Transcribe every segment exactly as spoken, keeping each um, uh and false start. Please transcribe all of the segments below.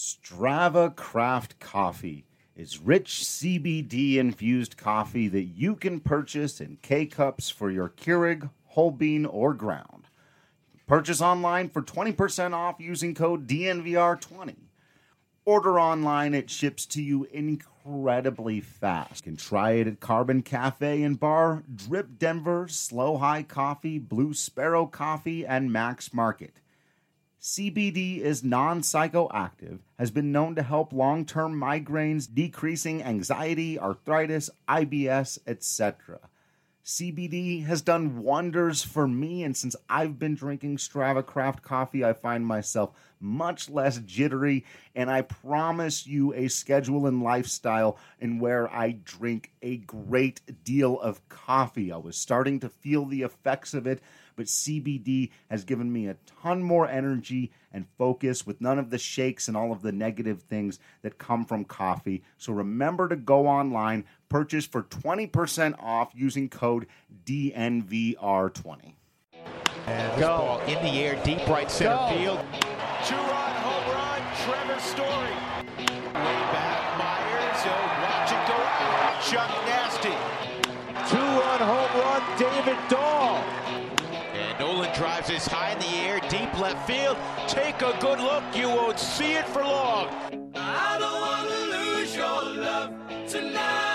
Strava Craft Coffee is rich C B D-infused coffee that you can purchase in K-Cups for your Keurig, whole bean, or ground. Purchase online for twenty percent off using code D N V R twenty. Order online, it ships to you incredibly fast. You can try it at Carbon Cafe and Bar, Drip Denver, Slow High Coffee, Blue Sparrow Coffee, and Max Market. C B D is non-psychoactive, has been known to help long-term migraines, decreasing anxiety, arthritis, I B S, et cetera. C B D has done wonders for me, and since I've been drinking Strava Craft Coffee, I find myself much less jittery, and I promise you a schedule and lifestyle in where I drink a great deal of coffee. I was starting to feel the effects of it, but C B D has given me a ton more energy and focus with none of the shakes and all of the negative things that come from coffee. So remember to go online, purchase for twenty percent off using code D N V R twenty. And this ball in the air, deep right center Go. field. Two-run home run, Trevor Story. Way back, Myers, oh, watch it go out. Chuck Nasty. Two-run home run, David Dahl. And Nolan drives this high in the air, deep left field. Take a good look, you won't see it for long. I don't want to lose your love tonight.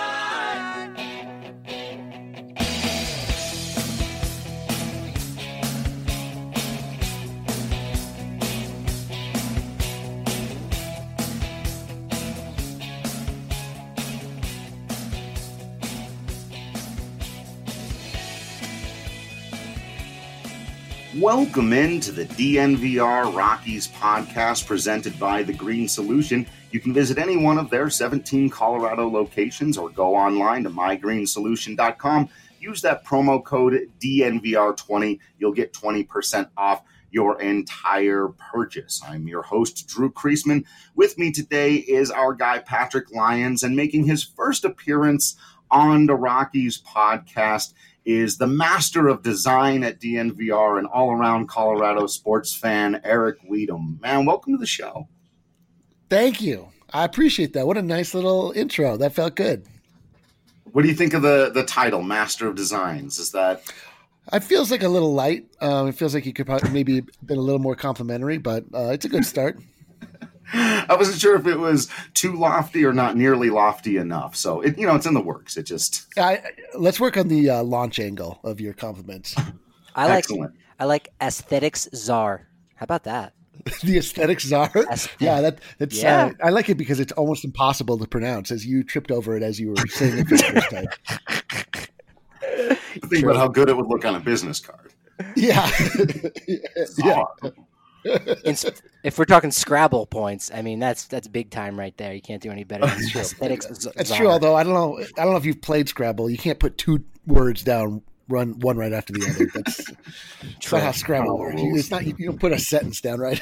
Welcome into the D N V R Rockies podcast presented by The Green Solution. You can visit any one of their seventeen Colorado locations or go online to my green solution dot com. Use that promo code D N V R twenty. You'll get twenty percent off your entire purchase. I'm your host, Drew Kreisman. With me today is our guy, Patrick Lyons, and making his first appearance on the Rockies podcast is the master of design at D N V R and all-around Colorado sports fan, Eric Weedham. Man, welcome to the show. Thank you. I appreciate that. What a nice little intro. That felt good. What do you think of the, the title, Master of Designs? Is that... It feels like a little light. Um, it feels like you could probably maybe been a little more complimentary, but uh, it's a good start. I wasn't sure if it was too lofty or not nearly lofty enough. So, it, you know, it's in the works. It just... I, let's work on the uh, launch angle of your compliments. I like Excellent. I like aesthetics czar. How about that? The aesthetic czar? Aesthet- Yeah, that, that's. Yeah. Uh, I like it because it's almost impossible to pronounce as you tripped over it as you were saying it for the first time. Think about how good it would look on a business card. Yeah. yeah. Czar. In, if we're talking Scrabble points, I mean that's that's big time right there. You can't do any better than aesthetics czar. That's true, although I don't know I don't know if you've played Scrabble. You can't put two words down, run one right after the other. That's, that's not how Scrabble works. You, it's not you don't put a sentence down, right?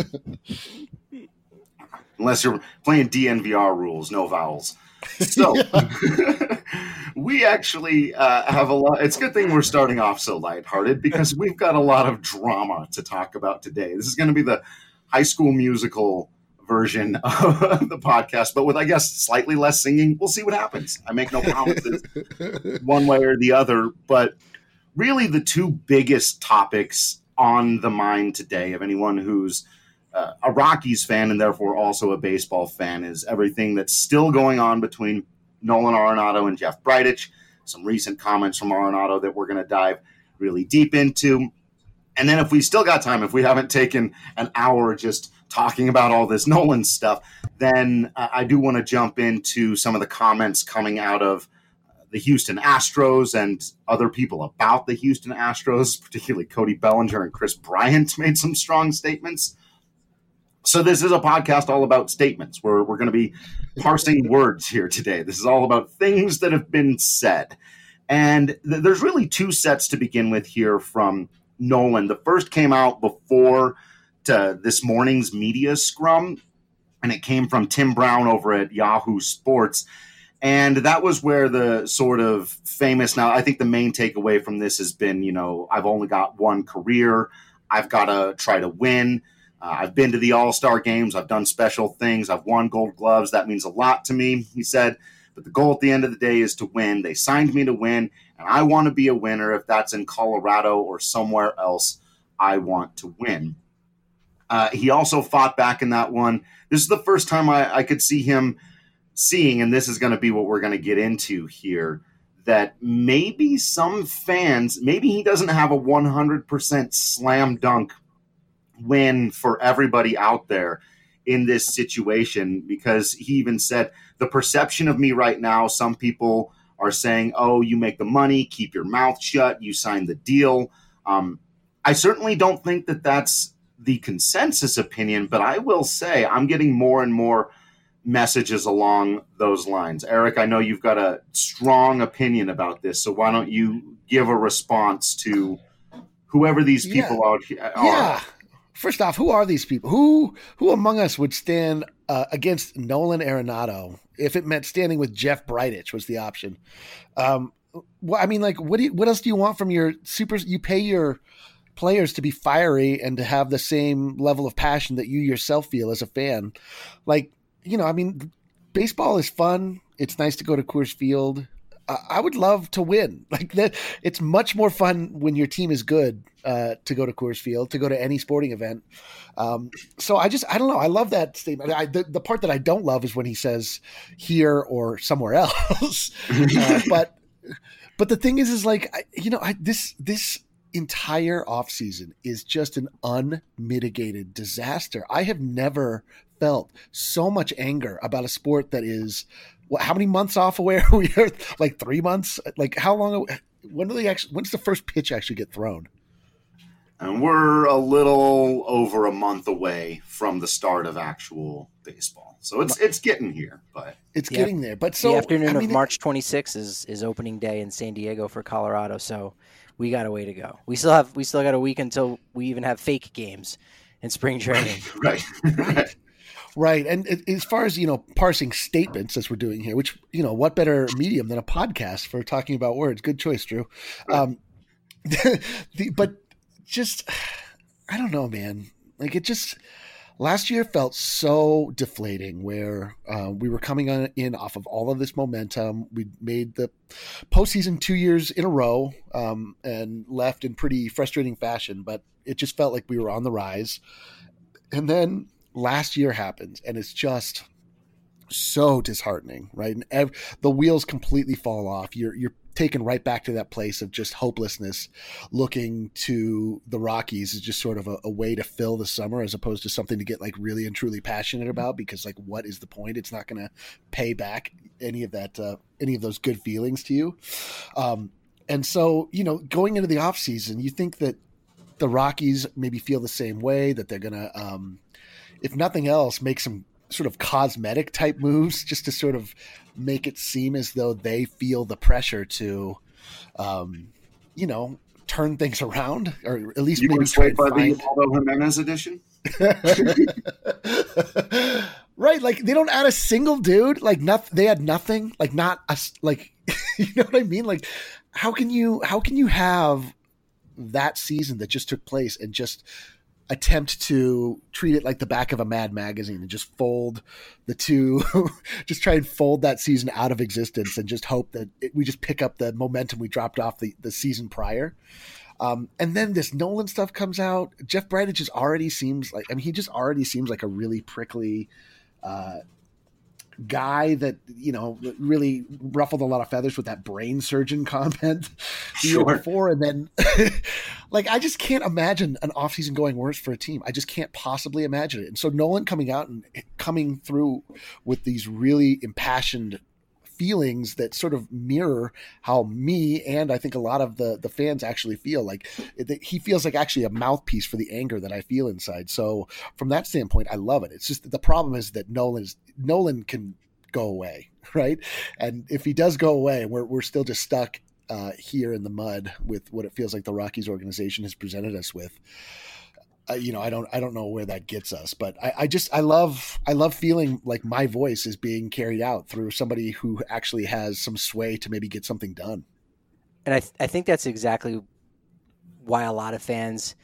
Unless you're playing D N V R rules, no vowels. So we actually uh, have a lot. It's a good thing we're starting off so lighthearted because we've got a lot of drama to talk about today. This is going to be the High School Musical version of the podcast, but with, I guess, slightly less singing. We'll see what happens. I make no promises one way or the other, but really the two biggest topics on the mind today of anyone who's Uh, a Rockies fan and therefore also a baseball fan is everything that's still going on between Nolan Arenado and Jeff Bridich. Some recent comments from Arenado that we're going to dive really deep into. And then if we still got time, if we haven't taken an hour just talking about all this Nolan stuff, then uh, I do want to jump into some of the comments coming out of the Houston Astros and other people about the Houston Astros, particularly Cody Bellinger and Chris Bryant made some strong statements. So this is a podcast all about statements. We're, we're going to be parsing words here today. This is all about things that have been said. And th- there's really two sets to begin with here from Nolan. The first came out before to this morning's media scrum, and it came from Tim Brown over at Yahoo Sports. And that was where the sort of famous, now I think the main takeaway from this has been, you know, I've only got one career. I've got to try to win. Uh, I've been to the All-Star games. I've done special things. I've won gold gloves. That means a lot to me, he said. But the goal at the end of the day is to win. They signed me to win, and I want to be a winner. If that's in Colorado or somewhere else, I want to win. Uh, he also fought back in that one. This is the first time I, I could see him seeing, and this is going to be what we're going to get into here, that maybe some fans, maybe he doesn't have a one hundred percent slam dunk win for everybody out there in this situation, because he even said, the perception of me right now, some people are saying, oh, you make the money, keep your mouth shut, you signed the deal. Um, I certainly don't think that that's the consensus opinion, but I will say I'm getting more and more messages along those lines. Eric, I know you've got a strong opinion about this, so why don't you give a response to whoever these people yeah. out here are? Yeah. First off, who are these people? Who who among us would stand uh, against Nolan Arenado if it meant standing with Jeff Bridich was the option? Um, well, I mean, like, what do you, what else do you want from your super? You pay your players to be fiery and to have the same level of passion that you yourself feel as a fan. Like, you know, I mean, baseball is fun. It's nice to go to Coors Field. Uh, I would love to win. Like that, it's much more fun when your team is good uh, to go to Coors Field, to go to any sporting event. Um, so I just, I don't know. I love that statement. I, the, the part that I don't love is when he says here or somewhere else. uh, but, but the thing is, is like, I, you know, I, this, this entire offseason is just an unmitigated disaster. I have never felt so much anger about a sport that is, what, how many months off away are we? Like three months? Like how long? When do they actually? When's the first pitch actually get thrown? And we're a little over a month away from the start of actual baseball, so it's it's getting here, but it's yeah. getting there. But so the afternoon I mean, of March twenty-sixth is is opening day in San Diego for Colorado. So we got a way to go. We still have we still got a week until we even have fake games in spring training. right. right. Right. And as far as, you know, parsing statements as we're doing here, which, you know, what better medium than a podcast for talking about words? Good choice, Drew. Um, the, but just, I don't know, man. Like it just, last year felt so deflating where uh, we were coming on, in off of all of this momentum. We made the postseason two years in a row um, and left in pretty frustrating fashion, but it just felt like we were on the rise. And then last year happens, and it's just so disheartening, right? And ev- the wheels completely fall off. You're you're taken right back to that place of just hopelessness, looking to the Rockies as just sort of a, a way to fill the summer, as opposed to something to get like really and truly passionate about. Because like, what is the point? It's not going to pay back any of that, uh, any of those good feelings to you. Um, and so, you know, going into the off season, you think that the Rockies maybe feel the same way, that they're going to, um, if nothing else, make some sort of cosmetic type moves just to sort of make it seem as though they feel the pressure to, um, you know, turn things around, or at least you maybe were try swayed by and the find... Ubaldo Jimenez edition? Right. Like they don't add a single dude, like nothing. They had nothing, like not us. Like, you know what I mean? Like how can you, how can you have that season that just took place and just attempt to treat it like the back of a Mad magazine and just fold the two, just try and fold that season out of existence and just hope that it, we just pick up the momentum we dropped off the, the season prior. Um, and then this Nolan stuff comes out. Jeff Bridich just already seems like, I mean, he just already seems like a really prickly uh, guy that, you know, really ruffled a lot of feathers with that brain surgeon comment the Sure. year before. And then like, I just can't imagine an offseason going worse for a team. I just can't possibly imagine it. And so Nolan coming out and coming through with these really impassioned feelings that sort of mirror how me and I think a lot of the the fans actually feel. Like it, he feels like actually a mouthpiece for the anger that I feel inside. So from that standpoint, I love it. It's just the problem is that Nolan is Nolan can go away, right? And if he does go away, we're we're still just stuck uh, here in the mud with what it feels like the Rockies organization has presented us with. Uh, you know, I don't, I don't know where that gets us, but I, I just, I love, I love feeling like my voice is being carried out through somebody who actually has some sway to maybe get something done. And I, th- I think that's exactly why a lot of fans,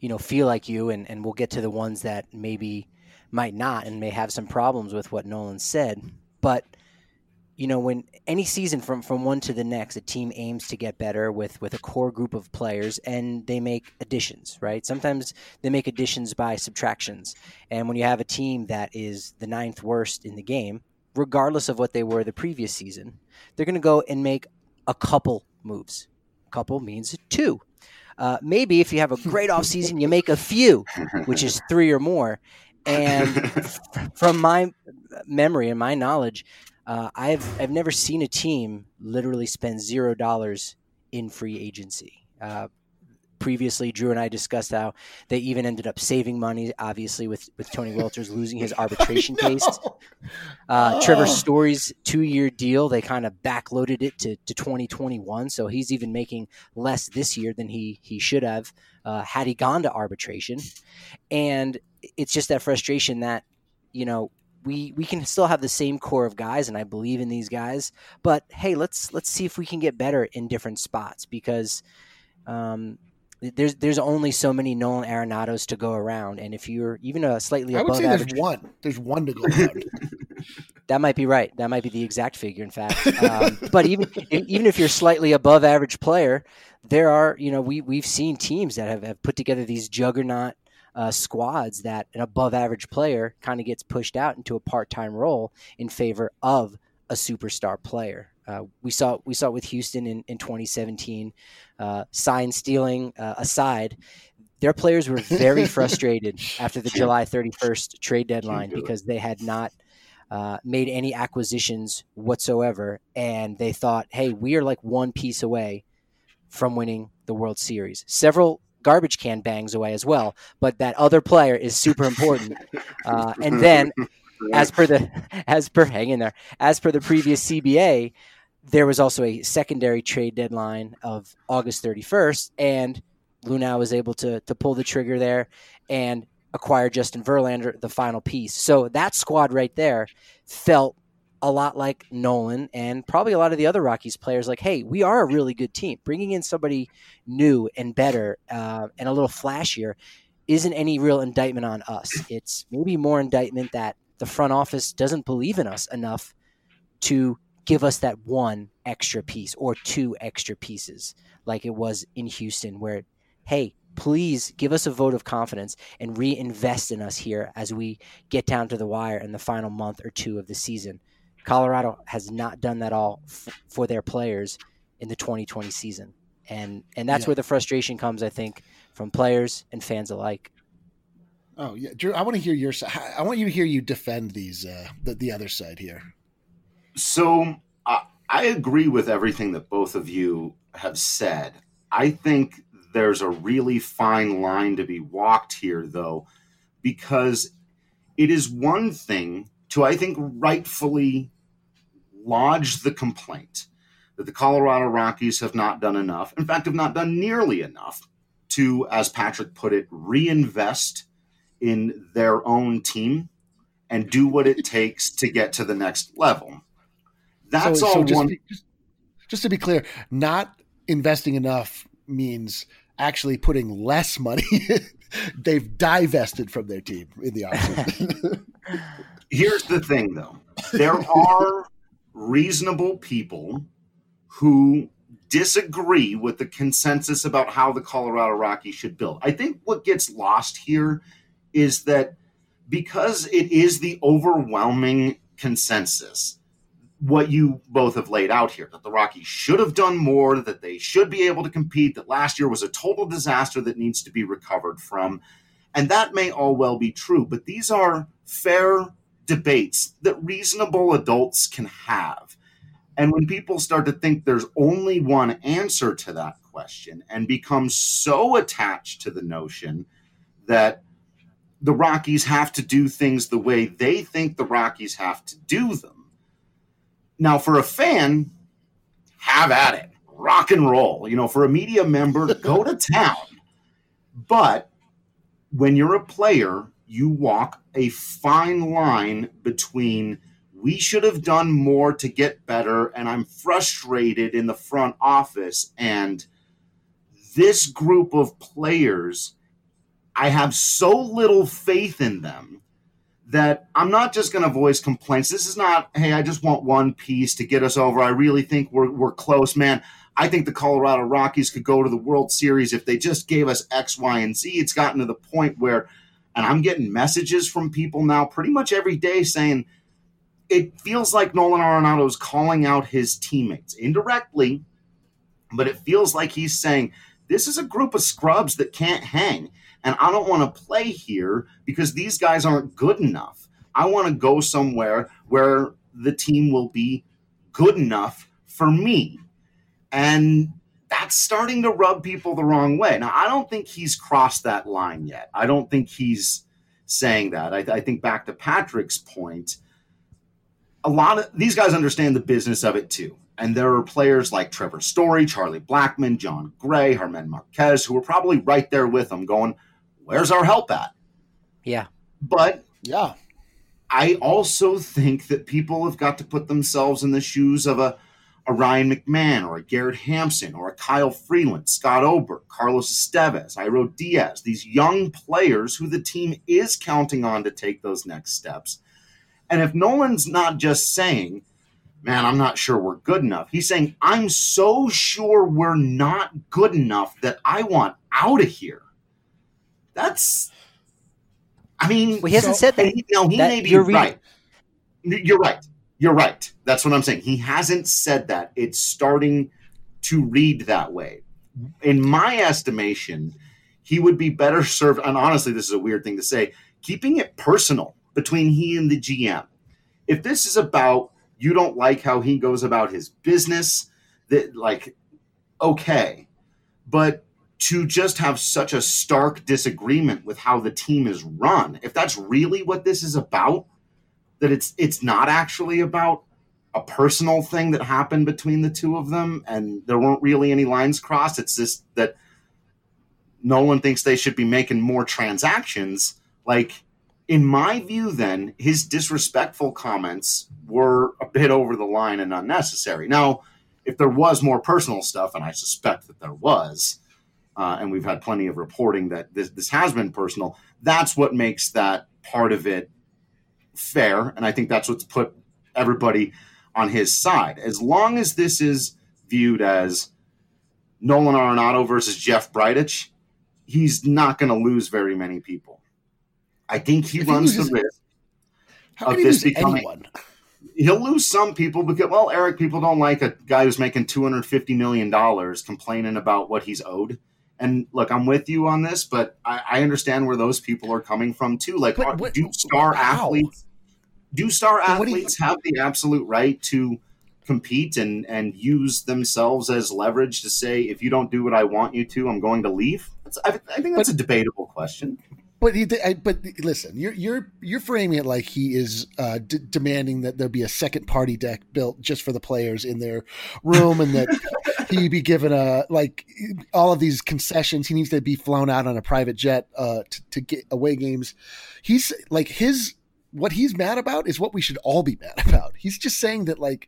you know, feel like you, and, and we'll get to the ones that maybe might not and may have some problems with what Nolan said. But, you know, when any season from, from one to the next, a team aims to get better with, with a core group of players, and they make additions, right? Sometimes they make additions by subtractions. And when you have a team that is the ninth worst in the game, regardless of what they were the previous season, they're going to go and make a couple moves. A couple means two. Uh, maybe if you have a great offseason, you make a few, which is three or more. And from my memory and my knowledge, uh, I've I've never seen a team literally spend zero dollars in free agency. Uh, previously, Drew and I discussed how they even ended up saving money, obviously, with, with Tony Walters losing his arbitration no. case. Uh, oh. Trevor Story's two-year deal, they kind of backloaded it to, to twenty twenty-one, so he's even making less this year than he he should have uh, had he gone to arbitration. And it's just that frustration that, you know, we we can still have the same core of guys, and I believe in these guys, but hey, let's let's see if we can get better in different spots, because um, there's there's only so many Nolan Arenados to go around, and if you're even a slightly I above would say average, there's one, there's one to go around. That might be right. That might be the exact figure, in fact. Um, but even even if you're slightly above average player, there are, you know, we we've seen teams that have, have put together these juggernaut Uh, squads that an above average player kind of gets pushed out into a part-time role in favor of a superstar player. Uh, we saw we saw it with Houston in, in twenty seventeen. Uh, sign stealing uh, aside, their players were very frustrated after the July thirty-first trade deadline because they had not uh, made any acquisitions whatsoever, and they thought, hey, we are like one piece away from winning the World Series. Several garbage can bangs away as well, but that other player is super important. Uh, and then as per the, as per hang in there, as per the previous C B A, there was also a secondary trade deadline of August thirty-first, and Luhnow was able to, to pull the trigger there and acquire Justin Verlander, the final piece. So that squad right there felt a lot like Nolan and probably a lot of the other Rockies players, like, hey, we are a really good team. Bringing in somebody new and better uh, and a little flashier isn't any real indictment on us. It's maybe more indictment that the front office doesn't believe in us enough to give us that one extra piece or two extra pieces like it was in Houston, where, hey, please give us a vote of confidence and reinvest in us here as we get down to the wire in the final month or two of the season. Colorado has not done that all f- for their players in the twenty twenty season. And and that's yeah. where the frustration comes, I think, from players and fans alike. Oh, yeah. Drew, I want to hear your side. I want you to hear you defend these, uh, the, the other side here. So uh, I agree with everything that both of you have said. I think there's a really fine line to be walked here, though, because it is one thing to, I think, rightfully lodge the complaint that the Colorado Rockies have not done enough, in fact, have not done nearly enough to, as Patrick put it, reinvest in their own team and do what it takes to get to the next level. That's so, all so just one. Be, just, just to be clear, not investing enough means actually putting less money. They've divested from their team in the offseason. Here's the thing, though. There are reasonable people who disagree with the consensus about how the Colorado Rockies should build. I think what gets lost here is that because it is the overwhelming consensus, what you both have laid out here, that the Rockies should have done more, that they should be able to compete, that last year was a total disaster that needs to be recovered from. And that may all well be true, but these are fair debates that reasonable adults can have. And when people start to think there's only one answer to that question and become so attached to the notion that the Rockies have to do things the way they think the Rockies have to do them. Now, for a fan, have at it. Rock and roll. You know, for a media member, go to town. But when you're a player, you walk a fine line between we should have done more to get better, and I'm frustrated in the front office, and this group of players I have so little faith in them that I'm not just going to voice complaints. This is not, hey, I just want one piece to get us over. I really think we're we're close, man. I think the Colorado Rockies could go to the World Series if they just gave us X, Y, and Z. It's gotten to the point where, and I'm getting messages from people now pretty much every day saying it feels like Nolan Arenado is calling out his teammates indirectly, but it feels like he's saying, this is a group of scrubs that can't hang. And I don't want to play here because these guys aren't good enough. I want to go somewhere where the team will be good enough for me. And that's starting to rub people the wrong way. Now, I don't think he's crossed that line yet. I don't think he's saying that. I, I think back to Patrick's point, a lot of these guys understand the business of it too. And there are players like Trevor Story, Charlie Blackmon, John Gray, Germán Marquez, who are probably right there with him going, where's our help at? Yeah. But yeah, I also think that people have got to put themselves in the shoes of a, a Ryan McMahon or a Garrett Hampson or a Kyle Freeland, Scott Oberg, Carlos Estevez, Iro Diaz, these young players who the team is counting on to take those next steps. And if Nolan's not just saying, man, I'm not sure we're good enough. He's saying, I'm so sure we're not good enough that I want out of here. That's, I mean, well, he hasn't so, said that. He, no, he that may be you're right. Reading. You're right. You're right. That's what I'm saying. He hasn't said that. It's starting to read that way. In my estimation, he would be better served, and honestly, this is a weird thing to say, keeping it personal between he and the G M. If this is about you don't like how he goes about his business, that like, okay. But to just have such a stark disagreement with how the team is run, if that's really what this is about, that it's it's not actually about a personal thing that happened between the two of them and there weren't really any lines crossed, it's just that Nolan thinks they should be making more transactions. Like, in my view, then, his disrespectful comments were a bit over the line and unnecessary. Now, if there was more personal stuff, and I suspect that there was, uh, and we've had plenty of reporting that this, this has been personal, that's what makes that part of it fair, and I think that's what's put everybody on his side. As long as this is viewed as Nolan Arenado versus Jeff Bridich, he's not going to lose very many people. I think he if runs he loses, the risk how of can this he lose becoming. Anyone? He'll lose some people because, well, Eric, people don't like a guy who's making two hundred fifty million dollars complaining about what he's owed. And look, I'm with you on this, but I, I understand where those people are coming from too. Like, but, what, do star how? athletes, do star but athletes you, have the absolute right to compete and, and use themselves as leverage to say, if you don't do what I want you to, I'm going to leave? That's, I, I think that's but, a debatable question. But he, I, but listen, you're you're you're framing it like he is uh, d- demanding that there be a second party deck built just for the players in their room, and that he be given a like all of these concessions. He needs to be flown out on a private jet uh, to, to get away games. He's like his what he's mad about is what we should all be mad about. He's just saying that like,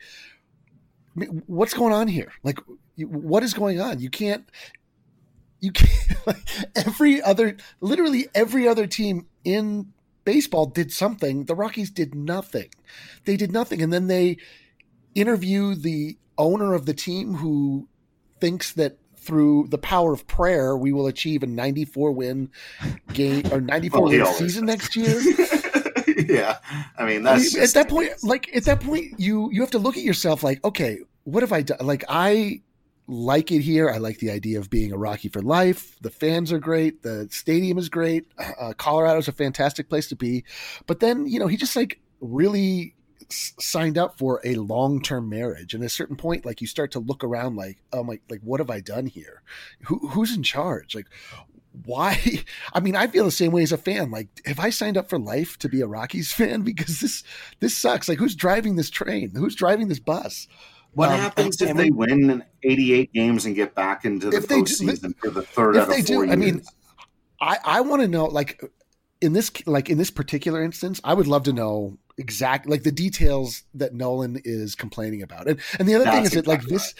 what's going on here? Like, what is going on? You can't. You can't, like, every other, literally every other team in baseball did something. The Rockies did nothing. They did nothing. And then they interview the owner of the team who thinks that through the power of prayer, we will achieve a ninety-four win game or ninety-four well, win season next year. Yeah. I mean, that's I mean, at that point, like at that point, you, you have to look at yourself like, okay, what have I done? Like I, like it here. I like the idea of being a Rocky for life. The fans are great. The stadium is great. Uh, Colorado's a fantastic place to be. But then, you know, he just like really s- signed up for a long-term marriage. And at a certain point, like you start to look around like, oh my, like, what have I done here? Who, who's in charge? Like, why? I mean, I feel the same way as a fan. Like, have I signed up for life to be a Rockies fan? Because this, this sucks. Like, who's driving this train? Who's driving this bus? What um, happens and, if and they when, win eighty-eight games and get back into the postseason for the third if out they of four do, years? I mean, I, I want to know, like in this, like in this particular instance, I would love to know exactly like the details that Nolan is complaining about. And and the other That's thing is that exactly like this, right.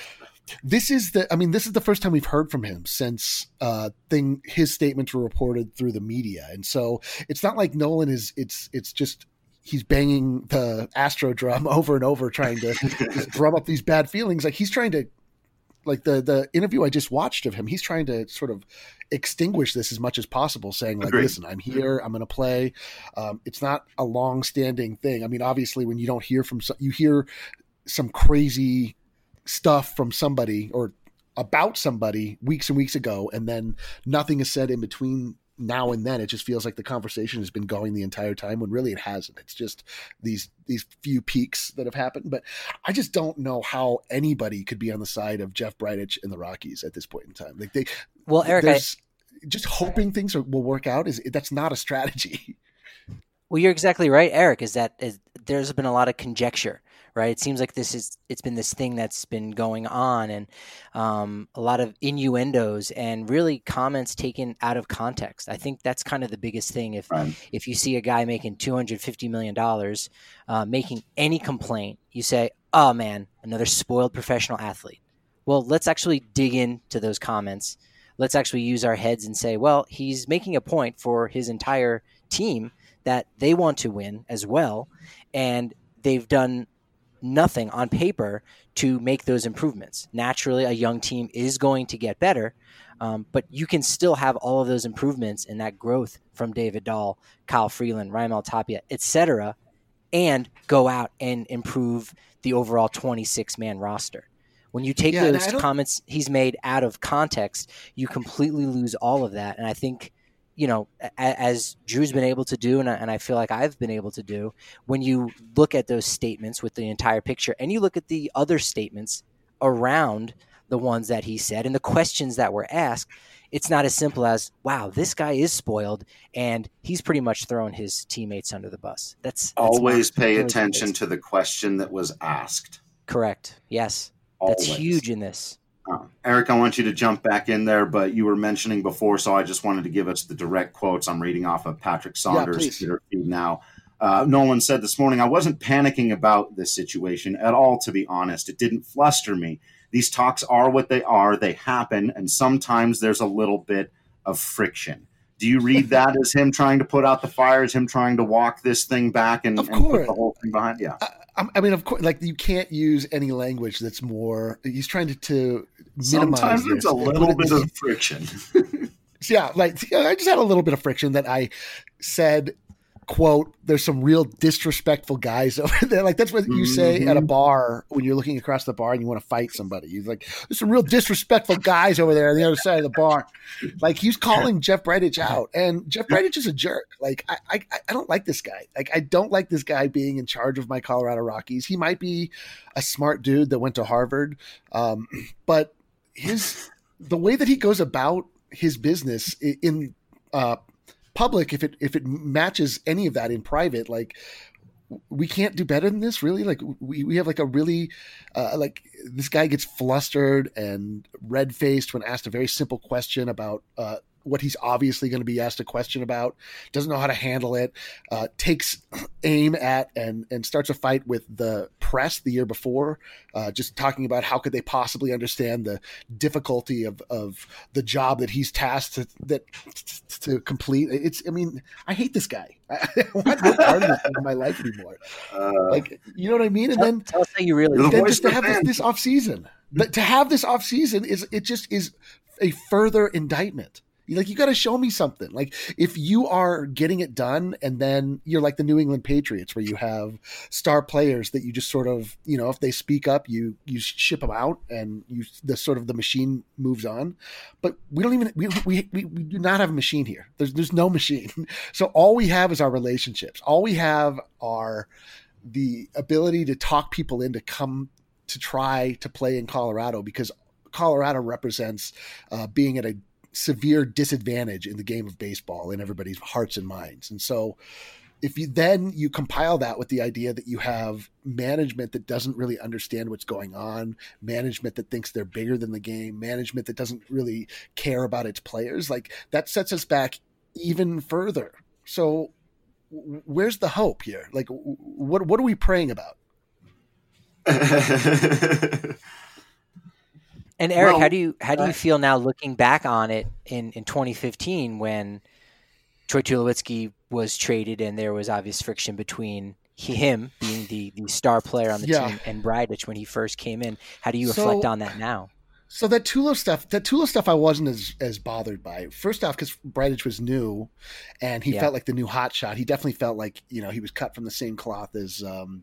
This is the, I mean, this is the first time we've heard from him since uh, thing his statements were reported through the media, and so it's not like Nolan is. It's it's just he's banging the Astro drum over and over, trying to just drum up these bad feelings. Like he's trying to, like the the interview I just watched of him, he's trying to sort of extinguish this as much as possible, saying like, Agreed. listen, I'm here, I'm going to play. Um, it's not a long standing thing. I mean, obviously, when you don't hear from you hear some crazy stuff from somebody or about somebody weeks and weeks ago, and then nothing is said in between now and then. It just feels like the conversation has been going the entire time when really it hasn't. It's just these these few peaks that have happened. But I just don't know how anybody could be on the side of Jeff Bridich and the Rockies at this point in time. Like they, well, Eric, I, just hoping things are, will work out is that's not a strategy. Well, you're exactly right, Eric. Is that is, there's been a lot of conjecture. Right. It seems like this is it's been this thing that's been going on, and um, a lot of innuendos and really comments taken out of context. I think that's kind of the biggest thing. If Right. if you see a guy making two hundred fifty million dollars, uh, making any complaint, you say, oh, man, another spoiled professional athlete. Well, let's actually dig into those comments. Let's actually use our heads and say, well, he's making a point for his entire team that they want to win as well. And they've done nothing on paper to make those improvements. Naturally, a young team is going to get better, um, but you can still have all of those improvements and that growth from David Dahl, Kyle Freeland, Raimel Tapia, et cetera, and go out and improve the overall twenty-six man roster. When you take Yeah, those comments he's made out of context, you completely lose all of that. And I think, you know, as Drew's been able to do, and I, and I feel like I've been able to do, when you look at those statements with the entire picture and you look at the other statements around the ones that he said and the questions that were asked, it's not as simple as, wow, this guy is spoiled and he's pretty much thrown his teammates under the bus. That's, that's Always pay really attention to the question that was asked. Correct. Yes. Always. That's huge in this. Uh, Eric, I want you to jump back in there, but you were mentioning before, so I just wanted to give us the direct quotes. I'm reading off of Patrick Saunders' Yeah, Twitter feed now. Uh, Nolan said this morning, I wasn't panicking about this situation at all, to be honest. It didn't fluster me. These talks are what they are. They happen, and sometimes there's a little bit of friction. Do you read that as him trying to put out the fires, him trying to walk this thing back and, Of and put course. the whole thing behind? Yeah. I, I mean, of course, like you can't use any language that's more. He's trying to, to minimize. Sometimes this. it's a little bit of friction. Yeah, like I just had a little bit of friction that I said, quote, there's some real disrespectful guys over there. Like that's what you say Mm-hmm. at a bar when you're looking across the bar and you want to fight somebody. You're like, there's some real disrespectful guys over there on the other side of the bar. Like he's calling Jeff Bridich out, and Jeff Bridich is a jerk. Like I, I, I don't like this guy. Like I don't like this guy being in charge of my Colorado Rockies. He might be a smart dude that went to Harvard, um, but his the way that he goes about his business in uh, public, if it if it matches any of that in private, like we can't do better than this, really. Like we, we have like a really uh, like this guy gets flustered and red faced when asked a very simple question about uh, what he's obviously going to be asked a question about, doesn't know how to handle it, uh, takes aim at and and starts a fight with the press the year before, uh, just talking about how could they possibly understand the difficulty of, of the job that he's tasked to, that, to complete. It's, I mean, I hate this guy. I, I want no part of this in my life anymore. Uh, Like, you know what I mean? And Tell, then tell us how you really The then voice just to of have this, fans. this off season, but to have this off season is, it just is a further indictment. Like, you got to show me something. Like, if you are getting it done and then you're like the New England Patriots where you have star players that you just sort of, you know, if they speak up, you, you ship them out and you, the sort of the machine moves on. But we don't even, we, we, we, we do not have a machine here. There's, there's no machine. So all we have is our relationships. All we have are the ability to talk people in to come to try to play in Colorado, because Colorado represents uh, being at a severe disadvantage in the game of baseball in everybody's hearts and minds. And so if you then you compile that with the idea that you have management that doesn't really understand what's going on, management that thinks they're bigger than the game, management that doesn't really care about its players, like that sets us back even further. So w- where's the hope here? Like, w- what, what are we praying about? And Eric, Well, how do you how do you uh, feel now looking back on it in, in twenty fifteen when Troy Tulowitzki was traded and there was obvious friction between him being the, the star player on the Yeah. team and Bridich when he first came in? How do you So- reflect on that now? So that Tulo stuff, that Tulo stuff, I wasn't as as bothered by. First off, because Bridich was new, and he Yeah. felt like the new hot shot. He definitely felt like you know he was cut from the same cloth as um,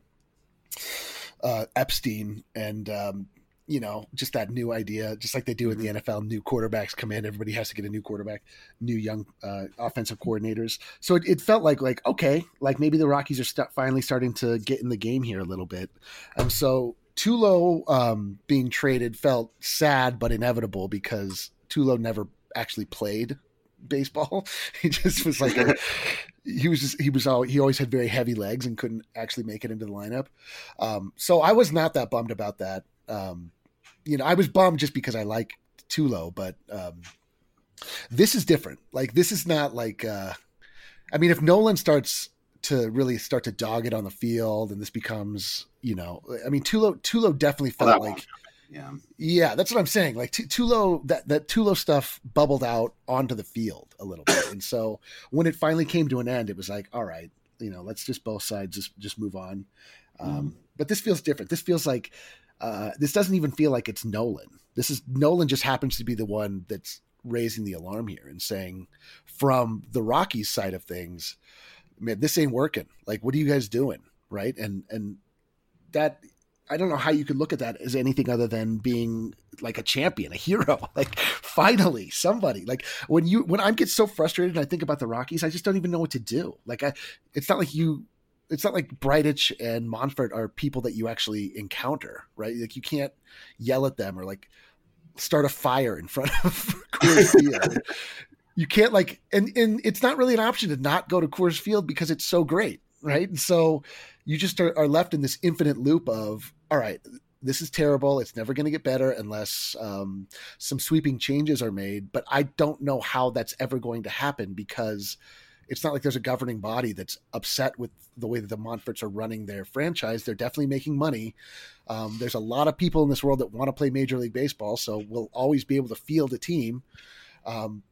uh, Epstein, and um, you know just that new idea, just like they do in the N F L. New quarterbacks come in, everybody has to get a new quarterback, new young uh, offensive coordinators. So it, it felt like like okay, like maybe the Rockies are st- finally starting to get in the game here a little bit, and so. Tulo um, being traded felt sad but inevitable because Tulo never actually played baseball. He just was like a, he was just, he was all, he always had very heavy legs and couldn't actually make it into the lineup. Um, so I was not that bummed about that. Um, you know, I was bummed just because I like Tulo, but um, this is different. Like this is not like uh, I mean, if Nolan starts to really start to dog it on the field and this becomes, you know, I mean, Tulo, Tulo definitely felt that like, won't yeah. yeah, that's what I'm saying. Like T- Tulo, that, that Tulo stuff bubbled out onto the field a little bit. And so when it finally came to an end, it was like, all right, you know, let's just both sides just, just move on. Um, but this feels different. This feels like, uh, this doesn't even feel like it's Nolan. This is Nolan just happens to be the one that's raising the alarm here and saying from the Rockies side of things, man, this ain't working. Like, what are you guys doing? Right. And, and that, I don't know how you could look at that as anything other than being like a champion, a hero. Like finally somebody, like when you, when I get so frustrated and I think about the Rockies, I just don't even know what to do. Like I, it's not like you, it's not like Bridich and Monfort are people that you actually encounter, right? Like you can't yell at them or like start a fire in front of Coors Field. You can't like, and, and it's not really an option to not go to Coors Field because it's so great. Right. And so you just are, are left in this infinite loop of, all right, this is terrible. It's never going to get better unless um, some sweeping changes are made. But I don't know how that's ever going to happen because it's not like there's a governing body that's upset with the way that the Monforts are running their franchise. They're definitely making money. Um, there's a lot of people in this world that want to play Major League Baseball. So we'll always be able to field a team. Um,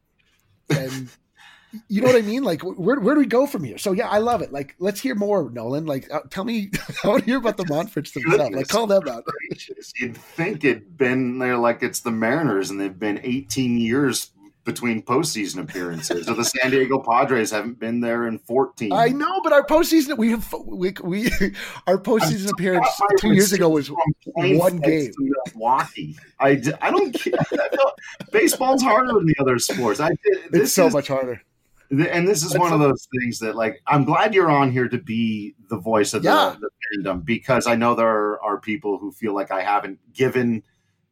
and you know what I mean? Like, where where do we go from here? So yeah, I love it. Like, let's hear more, Nolan. Like, uh, tell me, I want to hear about the Monforts themselves. Like, call them out. Gracious. You'd think it'd been there like it's the Mariners, and they've been eighteen years between postseason appearances. Or the San Diego Padres haven't been there in fourteen. I know, but our postseason we have we we our postseason appearance two years ago was one game. Milwaukee. I, d- I don't care. I don't, baseball's harder than the other sports. I this It's so is, much harder. And this is one of those things that, like, I'm glad you're on here to be the voice of the, Yeah. the fandom, because I know there are people who feel like I haven't given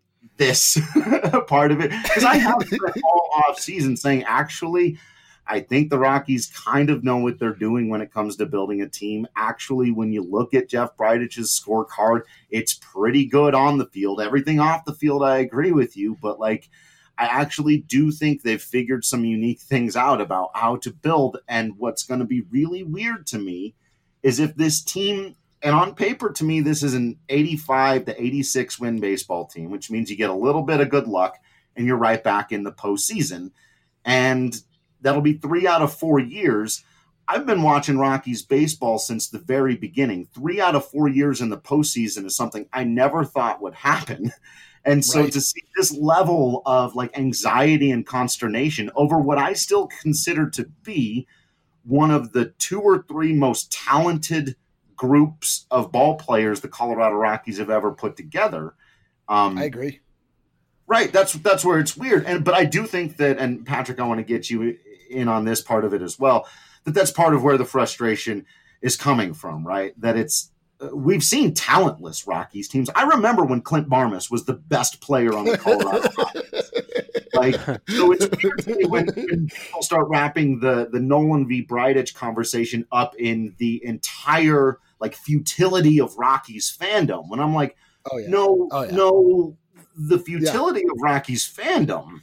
this part of it. Because I have spent all off season saying, actually, I think the Rockies kind of know what they're doing when it comes to building a team. Actually, when you look at Jeff Bridich's scorecard, it's pretty good on the field. Everything off the field, I agree with you, but like, I actually do think they've figured some unique things out about how to build. And what's going to be really weird to me is if this team, and on paper to me, this is an eighty-five to eighty-six win baseball team, which means you get a little bit of good luck and you're right back in the postseason. And that'll be three out of four years. I've been watching Rockies baseball since the very beginning. Three out of four years in the postseason is something I never thought would happen. And so Right. to see this level of like anxiety and consternation over what I still consider to be one of the two or three most talented groups of ball players the Colorado Rockies have ever put together. Um, I agree. Right. That's that's where it's weird. And but I do think that, and Patrick, I want to get you in on this part of it as well, that that's part of where the frustration is coming from, right? That it's uh, we've seen talentless Rockies teams. I remember when Clint Barmas was the best player on the Colorado Rockies. Like, so it's weird to me when, when people start wrapping the the Nolan v. Bridich conversation up in the entire like futility of Rockies fandom. When I'm like, Oh yeah. no, Oh, yeah. no, the futility of Rockies fandom.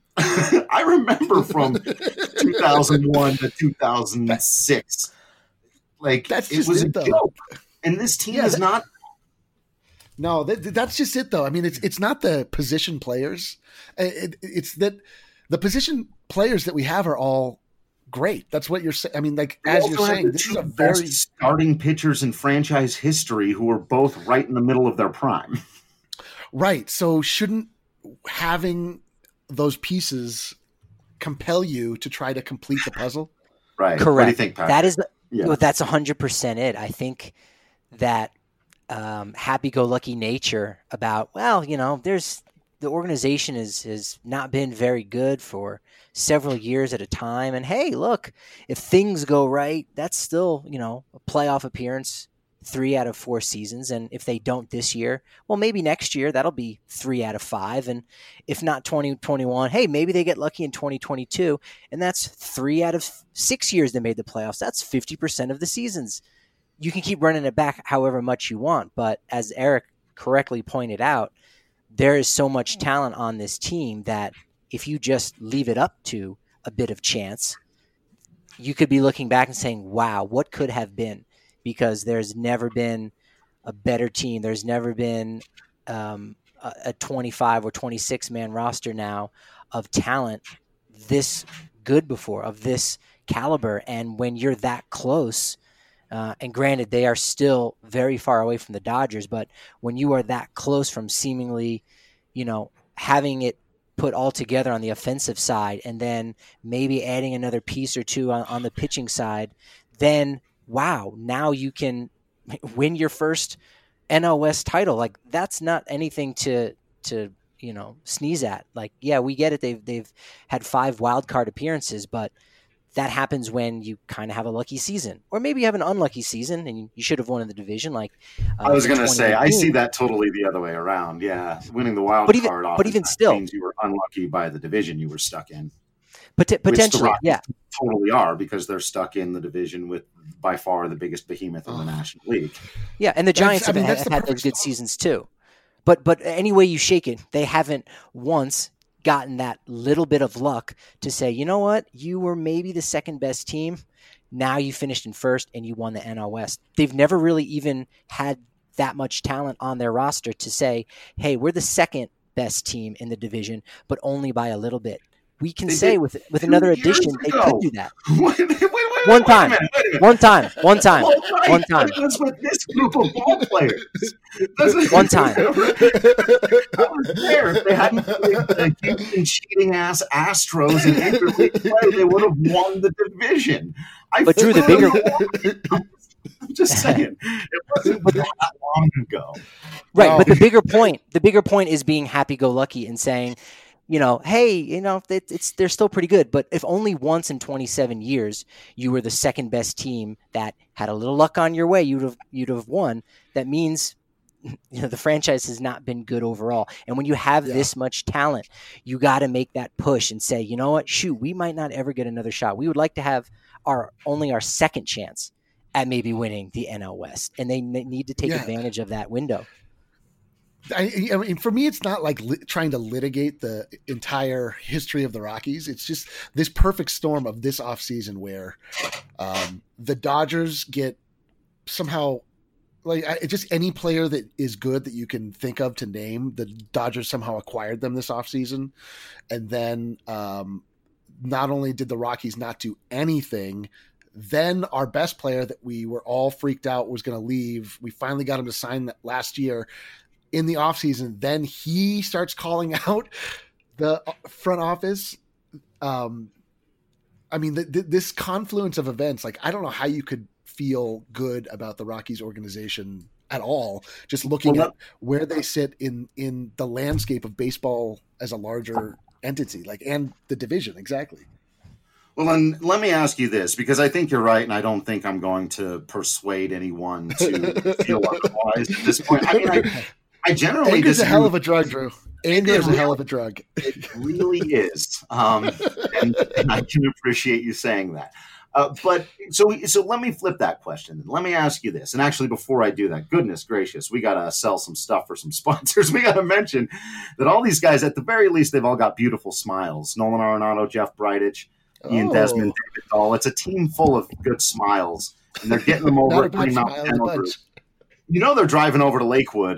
I remember from two thousand one to two thousand six, like That's it just was it, a though. joke. And this team Yeah, is that- not. No, that, that's just it, though. I mean, it's it's not the position players. It, it's that the position players that we have are all great. That's what you're saying. I mean, like, We as also you're have saying, the this two is a best very starting pitchers in franchise history who are both right in the middle of their prime. right. So shouldn't having those pieces compel you to try to complete the puzzle? Right. Correct. What do you think, Patrick? That is, Yeah. well, that's one hundred percent it. I think that um, happy-go-lucky nature about, well, you know, there's the organization is has not been very good for several years at a time. And hey, look, if things go right, that's still, you know, a playoff appearance three out of four seasons. And if they don't this year, well, maybe next year that'll be three out of five. And if not twenty twenty-one, hey, maybe they get lucky in twenty twenty-two. And that's three out of six years they made the playoffs. That's fifty percent of the seasons. You can keep running it back however much you want. But as Eric correctly pointed out, there is so much talent on this team that if you just leave it up to a bit of chance, you could be looking back and saying, wow, what could have been? Because there's never been a better team. There's never been um, a, a twenty-five or twenty-six man roster now of talent this good before, of this caliber. And when you're that close, uh, and granted, they are still very far away from the Dodgers, but when you are that close from seemingly, you know, having it put all together on the offensive side and then maybe adding another piece or two on, on the pitching side, then wow, now you can win your first N L West title. Like, that's not anything to, to, you know, sneeze at. Like, yeah, we get it. They've, they've had five wild card appearances, but that happens when you kind of have a lucky season, or maybe you have an unlucky season and you, you should have won in the division. Like uh, I was going to say, I see that totally the other way around. Yeah. Winning the wild but even, card off but even still means you were unlucky by the division you were stuck in. Pot- potentially, yeah. Totally are, because they're stuck in the division with by far the biggest behemoth in the National League. Yeah, and the Giants I mean, have, that's have the had those good seasons too. But but any way you shake it, they haven't once gotten that little bit of luck to say, you know what, you were maybe the second best team. Now you finished in first and you won the N L West. They've never really even had that much talent on their roster to say, hey, we're the second best team in the division, but only by a little bit. We can They say did with with two another years addition, they ago. could do that. wait, wait, wait, wait, One wait time. a minute, wait a minute. One time, one time, Well, right, one time. but it was with this group of ball players. Doesn't- One time. I was there. If they hadn't played the Houston cheating ass Astros in interleague play, they would have won the division. I But Drew, the bigger. I'm just saying, it wasn't that long ago. Right, No. but the bigger point, the bigger point is being happy-go-lucky and saying, you know, hey, you know, it, it's they're still pretty good, but if only once in twenty-seven years you were the second best team that had a little luck on your way, you'd have you'd have won. That means, you know, the franchise has not been good overall. And when you have Yeah. this much talent, you got to make that push and say, you know what, shoot, we might not ever get another shot. We would like to have our only our second chance at maybe winning the N L West, and they n- need to take Yeah. advantage of that window. I, I mean, for me, it's not like li- trying to litigate the entire history of the Rockies. It's just this perfect storm of this offseason where um, the Dodgers get somehow like I, just any player that is good that you can think of to name. The Dodgers somehow acquired them this offseason. And then um, not only did the Rockies not do anything, then our best player that we were all freaked out was going to leave. We finally got him to sign that last year. In the offseason, then he starts calling out the front office. Um, I mean, the, the, this confluence of events, like, I don't know how you could feel good about the Rockies organization at all, just looking Well, at where they sit in, in the landscape of baseball as a larger entity, like, and the division. Exactly. Well, then let me ask you this, because I think you're right, and I don't think I'm going to persuade anyone to feel otherwise at this point. I mean, I, I generally Anger's a disagree. hell of a drug, Drew. Anger is a really- hell of a drug. It really is, um, and, and I can appreciate you saying that. Uh, but so, so let me flip that question. Let me ask you this, and actually, before I do that, goodness gracious, we got to sell some stuff for some sponsors. We got to mention that all these guys, at the very least, they've all got beautiful smiles. Nolan Arenado, Jeff Bridich, Ian Oh. Desmond, David Dahl. It's a team full of good smiles, and they're getting them Not over a at bad Green smile Mountain in the Dental Group. bunch. You know they're driving over to Lakewood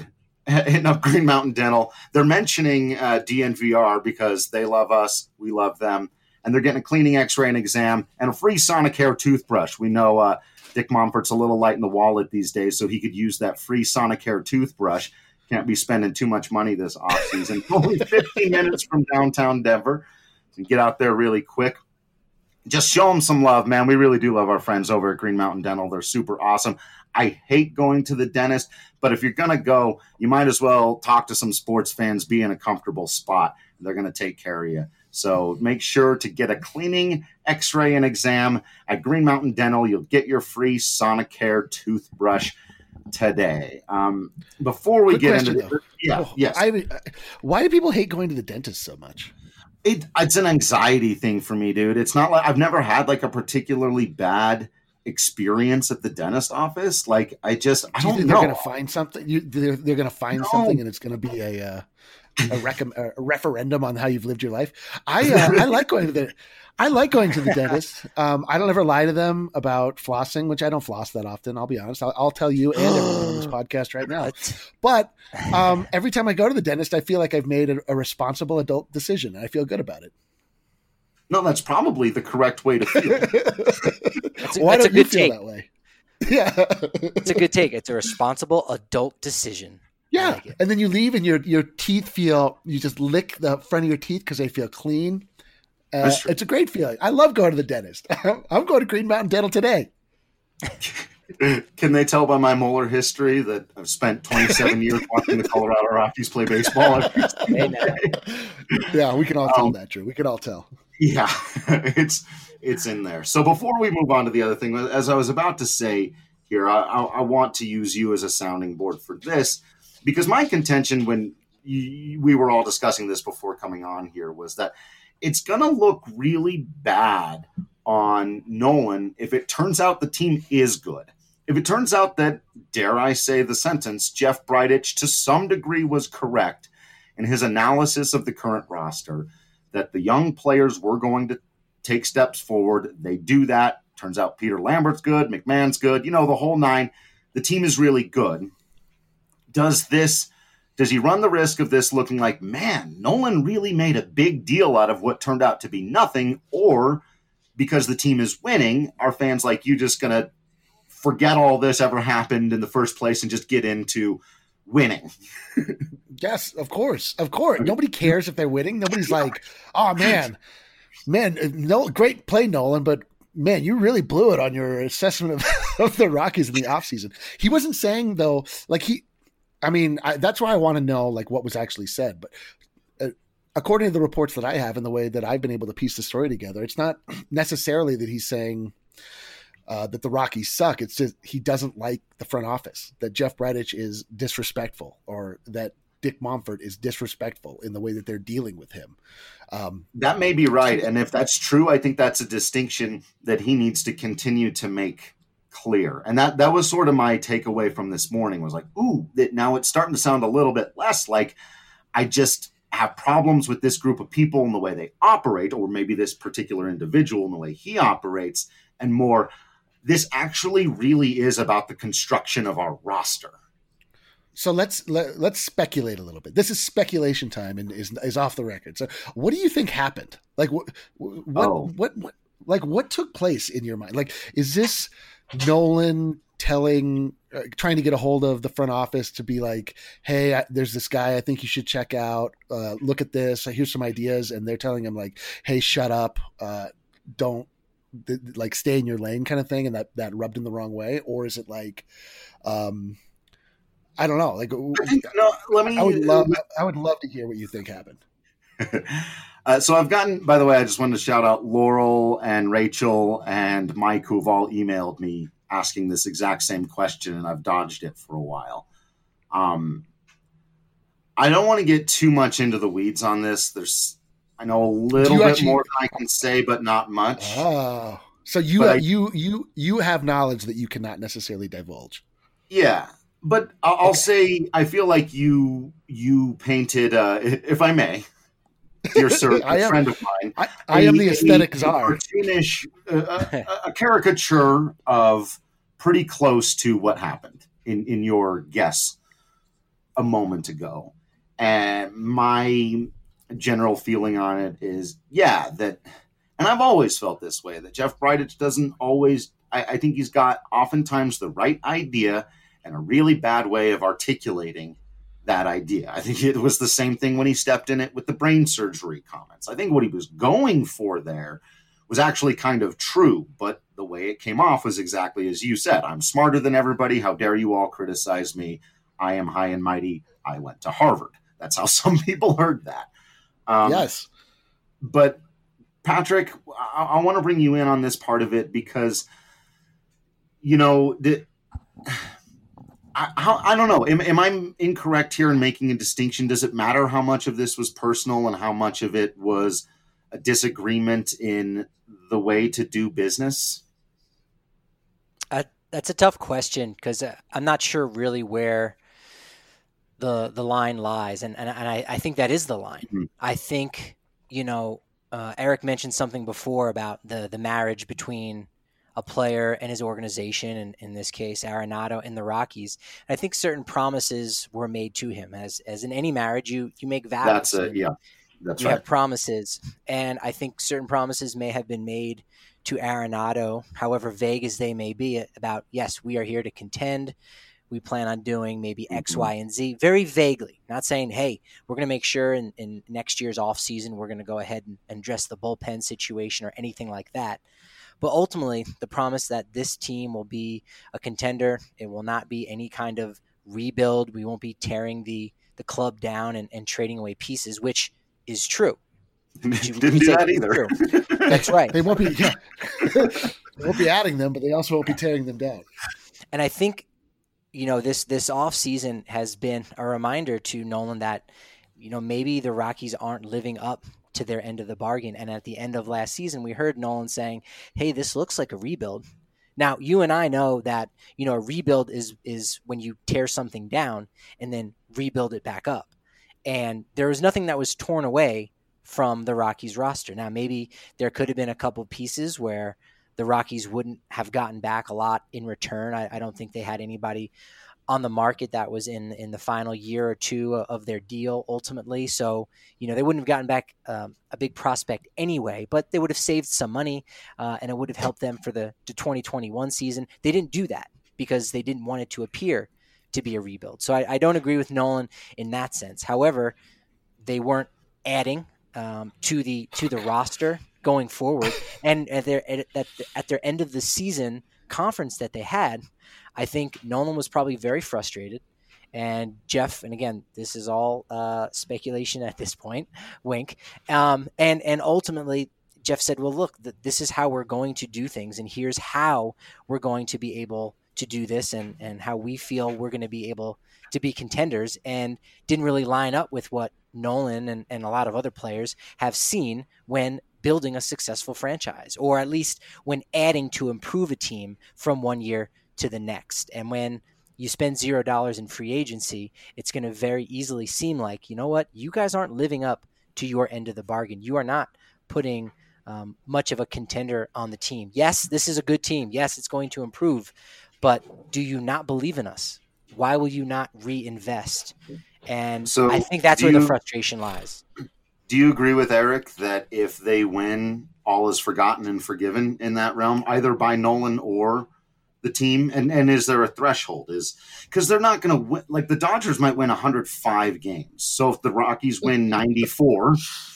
hitting up Green Mountain Dental. They're mentioning uh, D N V R because they love us, we love them, and they're getting a cleaning, X-ray, and exam, and a free Sonicare toothbrush. We know uh, Dick Monfort's a little light in the wallet these days, so he could use that free Sonicare toothbrush. Can't be spending too much money this offseason. Only fifteen minutes from downtown Denver. So get out there really quick. Just show them some love, man. We really do love our friends over at Green Mountain Dental. They're super awesome. I hate going to the dentist, but if you're going to go, you might as well talk to some sports fans, be in a comfortable spot. They're going to take care of you. So make sure to get a cleaning, X-ray, and exam at Green Mountain Dental. You'll get your free Sonicare toothbrush today. Um, before we Quick get question, into though. the, yeah, Oh, yes. I, why do people hate going to the dentist so much? It, it's an anxiety thing for me, dude. It's not like I've never had like a particularly bad experience at the dentist office. Like I just, I Do you don't think know. they're going to find something? You, they're they're going to find No. something, and it's going to be a uh, a, rec- a referendum on how you've lived your life. I uh, I like going to the I like going to the dentist. Um, I don't ever lie to them about flossing, which I don't floss that often. I'll be honest. I'll, I'll tell you and everyone on this podcast right now. But um, every time I go to the dentist, I feel like I've made a, a responsible adult decision, and I feel good about it. No, that's probably the correct way to feel. That's a, Why that's don't a you good feel take. that way? Yeah, It's a good take. It's a responsible adult decision. I yeah. like it. And then you leave, and your your teeth feel. You just lick the front of your teeth because they feel clean. Uh, That's true. it's a great feeling. I love going to the dentist. I'm going to Green Mountain Dental today. Can they tell by my molar history that I've spent twenty-seven years watching the Colorado Rockies play baseball every single day? Yeah, we can all tell Um, that, Drew. We can all tell. Yeah, it's it's in there. So before we move on to the other thing, as I was about to say here, I, I, I want to use you as a sounding board for this, because my contention when you, we were all discussing this before coming on here was that it's going to look really bad on Nolan if it turns out the team is good. If it turns out that, dare I say the sentence, Jeff Bridich to some degree was correct in his analysis of the current roster, that the young players were going to take steps forward. They do that. Turns out Peter Lambert's good, McMahon's good, you know, the whole nine. The team is really good. Does this, does he run the risk of this looking like, man, Nolan really made a big deal out of what turned out to be nothing, or because the team is winning, are fans like you just going to forget all this ever happened in the first place and just get into winning? Yes, of course. Of course. Nobody cares if they're winning. Nobody's like, oh, man, man, no, great play, Nolan, but man, you really blew it on your assessment of, of the Rockies in the offseason. He wasn't saying, though, like he, I mean, I, that's why I want to know, like, what was actually said. But uh, according to the reports that I have and the way that I've been able to piece the story together, it's not necessarily that he's saying uh, that the Rockies suck. It's just he doesn't like the front office, that Jeff Bridich is disrespectful, or that Dick Monfort is disrespectful in the way that they're dealing with him. Um, That may be right. And if that's true, I think that's a distinction that he needs to continue to make clear. And that, that was sort of my takeaway from this morning, was like, ooh, that now it's starting to sound a little bit less like I just have problems with this group of people and the way they operate, or maybe this particular individual and the way he operates, and more, this actually really is about the construction of our roster. So let's let, let's speculate a little bit. This is speculation time and is is off the record. So what do you think happened? Like what what Oh. what, what like what took place in your mind? Like is this Nolan telling uh, trying to get a hold of the front office to be like, "Hey, I, there's this guy I think you should check out. Uh, look at this. Here's some ideas." And they're telling him like, "Hey, shut up. Uh, don't th- like stay in your lane," kind of thing, and that that rubbed him the wrong way? Or is it like um I don't know. Like, I think, no, let me. I would love, I would love to hear what you think happened. uh, so I've gotten. By the way, I just wanted to shout out Laurel and Rachel and Mike, who've all emailed me asking this exact same question, and I've dodged it for a while. Um, I don't want to get too much into the weeds on this. There's, I know a little bit actually- more than I can say, but not much. Oh, so you, But uh, I- you, you, you have knowledge that you cannot necessarily divulge. Yeah, but I'll, I'll Okay. say I feel like you you painted, uh, if I may, dear sir, I a am- friend of mine. I, I am a- the a- aesthetic a czar. cartoonish, uh, a, a caricature of pretty close to what happened in, in your guess. a moment ago. And my general feeling on it is, yeah, that, and I've always felt this way, that Jeff Bridich doesn't always, I, I think he's got oftentimes the right idea and a really bad way of articulating that idea. I think it was the same thing when he stepped in it with the brain surgery comments. I think what he was going for there was actually kind of true, but the way it came off was exactly as you said. I'm smarter than everybody. How dare you all criticize me? I am high and mighty. I went to Harvard. That's how some people heard that. Um, yes. But Patrick, I, I want to bring you in on this part of it because, you know, the, I, how, I don't know. Am, am I incorrect here in making a distinction? Does it matter how much of this was personal and how much of it was a disagreement in the way to do business? Uh, that's a tough question because uh, I'm not sure really where the the line lies, and and, and I, I think that is the line. Mm-hmm. I think, you know, uh, Eric mentioned something before about the the marriage between a player and his organization, and in this case, Arenado and the Rockies. I think certain promises were made to him. As as in any marriage, you you make vows. That's it. Yeah, that's you right. have promises, and I think certain promises may have been made to Arenado, however vague as they may be, about yes, we are here to contend. We plan on doing maybe X, mm-hmm. Y, and Z, very vaguely. Not saying, hey, we're going to make sure in, in next year's offseason we're going to go ahead and, and address the bullpen situation or anything like that. But ultimately, the promise that this team will be a contender, it will not be any kind of rebuild. We won't be tearing the, the club down and, and trading away pieces, which is true. Didn't do that either. That's right. They won't be yeah. They won't be adding them, but they also won't be tearing them down. And I think, you know, this this offseason has been a reminder to Nolan that, you know, maybe the Rockies aren't living up to their end of the bargain. And at the end of last season, we heard Nolan saying, hey, this looks like a rebuild. Now, you and I know that, you know, a rebuild is is when you tear something down and then rebuild it back up. And there was nothing that was torn away from the Rockies roster. Now, maybe there could have been a couple pieces where the Rockies wouldn't have gotten back a lot in return. I, I don't think they had anybody on the market that was in in the final year or two of their deal ultimately. So, you know, they wouldn't have gotten back um, a big prospect anyway, but they would have saved some money uh, and it would have helped them for the, the twenty twenty-one season. They didn't do that because they didn't want it to appear to be a rebuild. So I, I don't agree with Nolan in that sense. However, they weren't adding um, to the to the roster going forward. And at their at, at, at their end of the season conference that they had, I think Nolan was probably very frustrated. And Jeff, and again, this is all uh, speculation at this point, wink. Um, and, and ultimately, Jeff said, well, look, th- this is how we're going to do things. And here's how we're going to be able to do this and, and how we feel we're going to be able to be contenders, and didn't really line up with what Nolan and, and a lot of other players have seen when building a successful franchise, or at least when adding to improve a team from one year to the next. And when you spend zero dollars in free agency, it's going to very easily seem like, you know what, you guys aren't living up to your end of the bargain. You are not putting um, much of a contender on the team. Yes, this is a good team. Yes, it's going to improve, but do you not believe in us? Why will you not reinvest? And so I think that's where you, the frustration lies. Do you agree with Eric that if they win, all is forgotten and forgiven in that realm, either by Nolan or the team? And and is there a threshold? Is because they're not going to win. Like the Dodgers might win one hundred five games. So if the Rockies win ninety-four,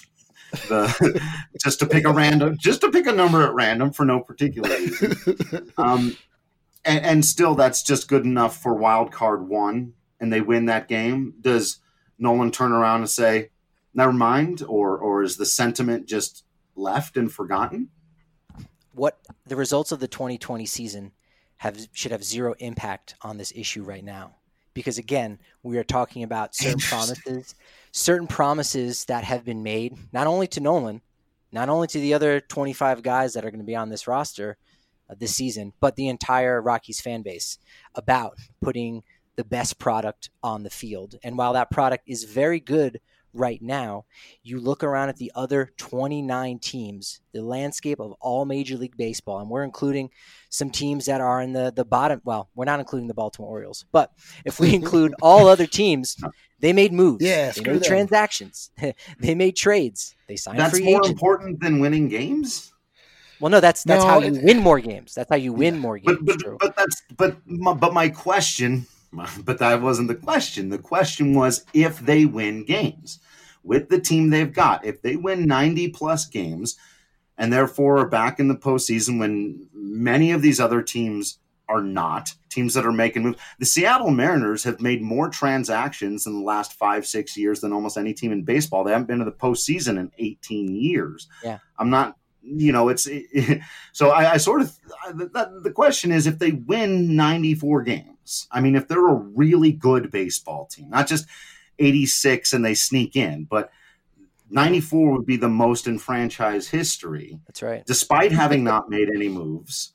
the just to pick a random, just to pick a number at random for no particular reason, um, and, and still that's just good enough for wild card one, and they win that game. Does Nolan turn around and say, never mind, or or is the sentiment just left and forgotten? What the results of the twenty twenty season have should have zero impact on this issue right now, because again, we are talking about certain promises, certain promises that have been made not only to Nolan, not only to the other twenty-five guys that are going to be on this roster uh, this season, but the entire Rockies fan base about putting the best product on the field. And while that product is very good right now, you look around at the other twenty-nine teams, the landscape of all Major League Baseball, and we're including some teams that are in the, the bottom. Well, we're not including the Baltimore Orioles, but if we include all other teams, they made moves. Yeah, they screw made them. transactions. They made trades. They signed That's free more agents. important than winning games. Well, no, that's that's No, how you it- win more games. That's how you win more games. But but Drew. but that's but my, but my question, but that wasn't the question. The question was if they win games with the team they've got, if they win ninety plus games, and therefore are back in the postseason when many of these other teams are not, teams that are making moves. The Seattle Mariners have made more transactions in the last five six years than almost any team in baseball. They haven't been to the postseason in eighteen years. Yeah, I'm not. You know, it's it, so I, I sort of the, the question is if they win ninety-four games. I mean, if they're a really good baseball team, not just eighty-six and they sneak in, but ninety-four would be the most in franchise history, that's right. despite having not made any moves.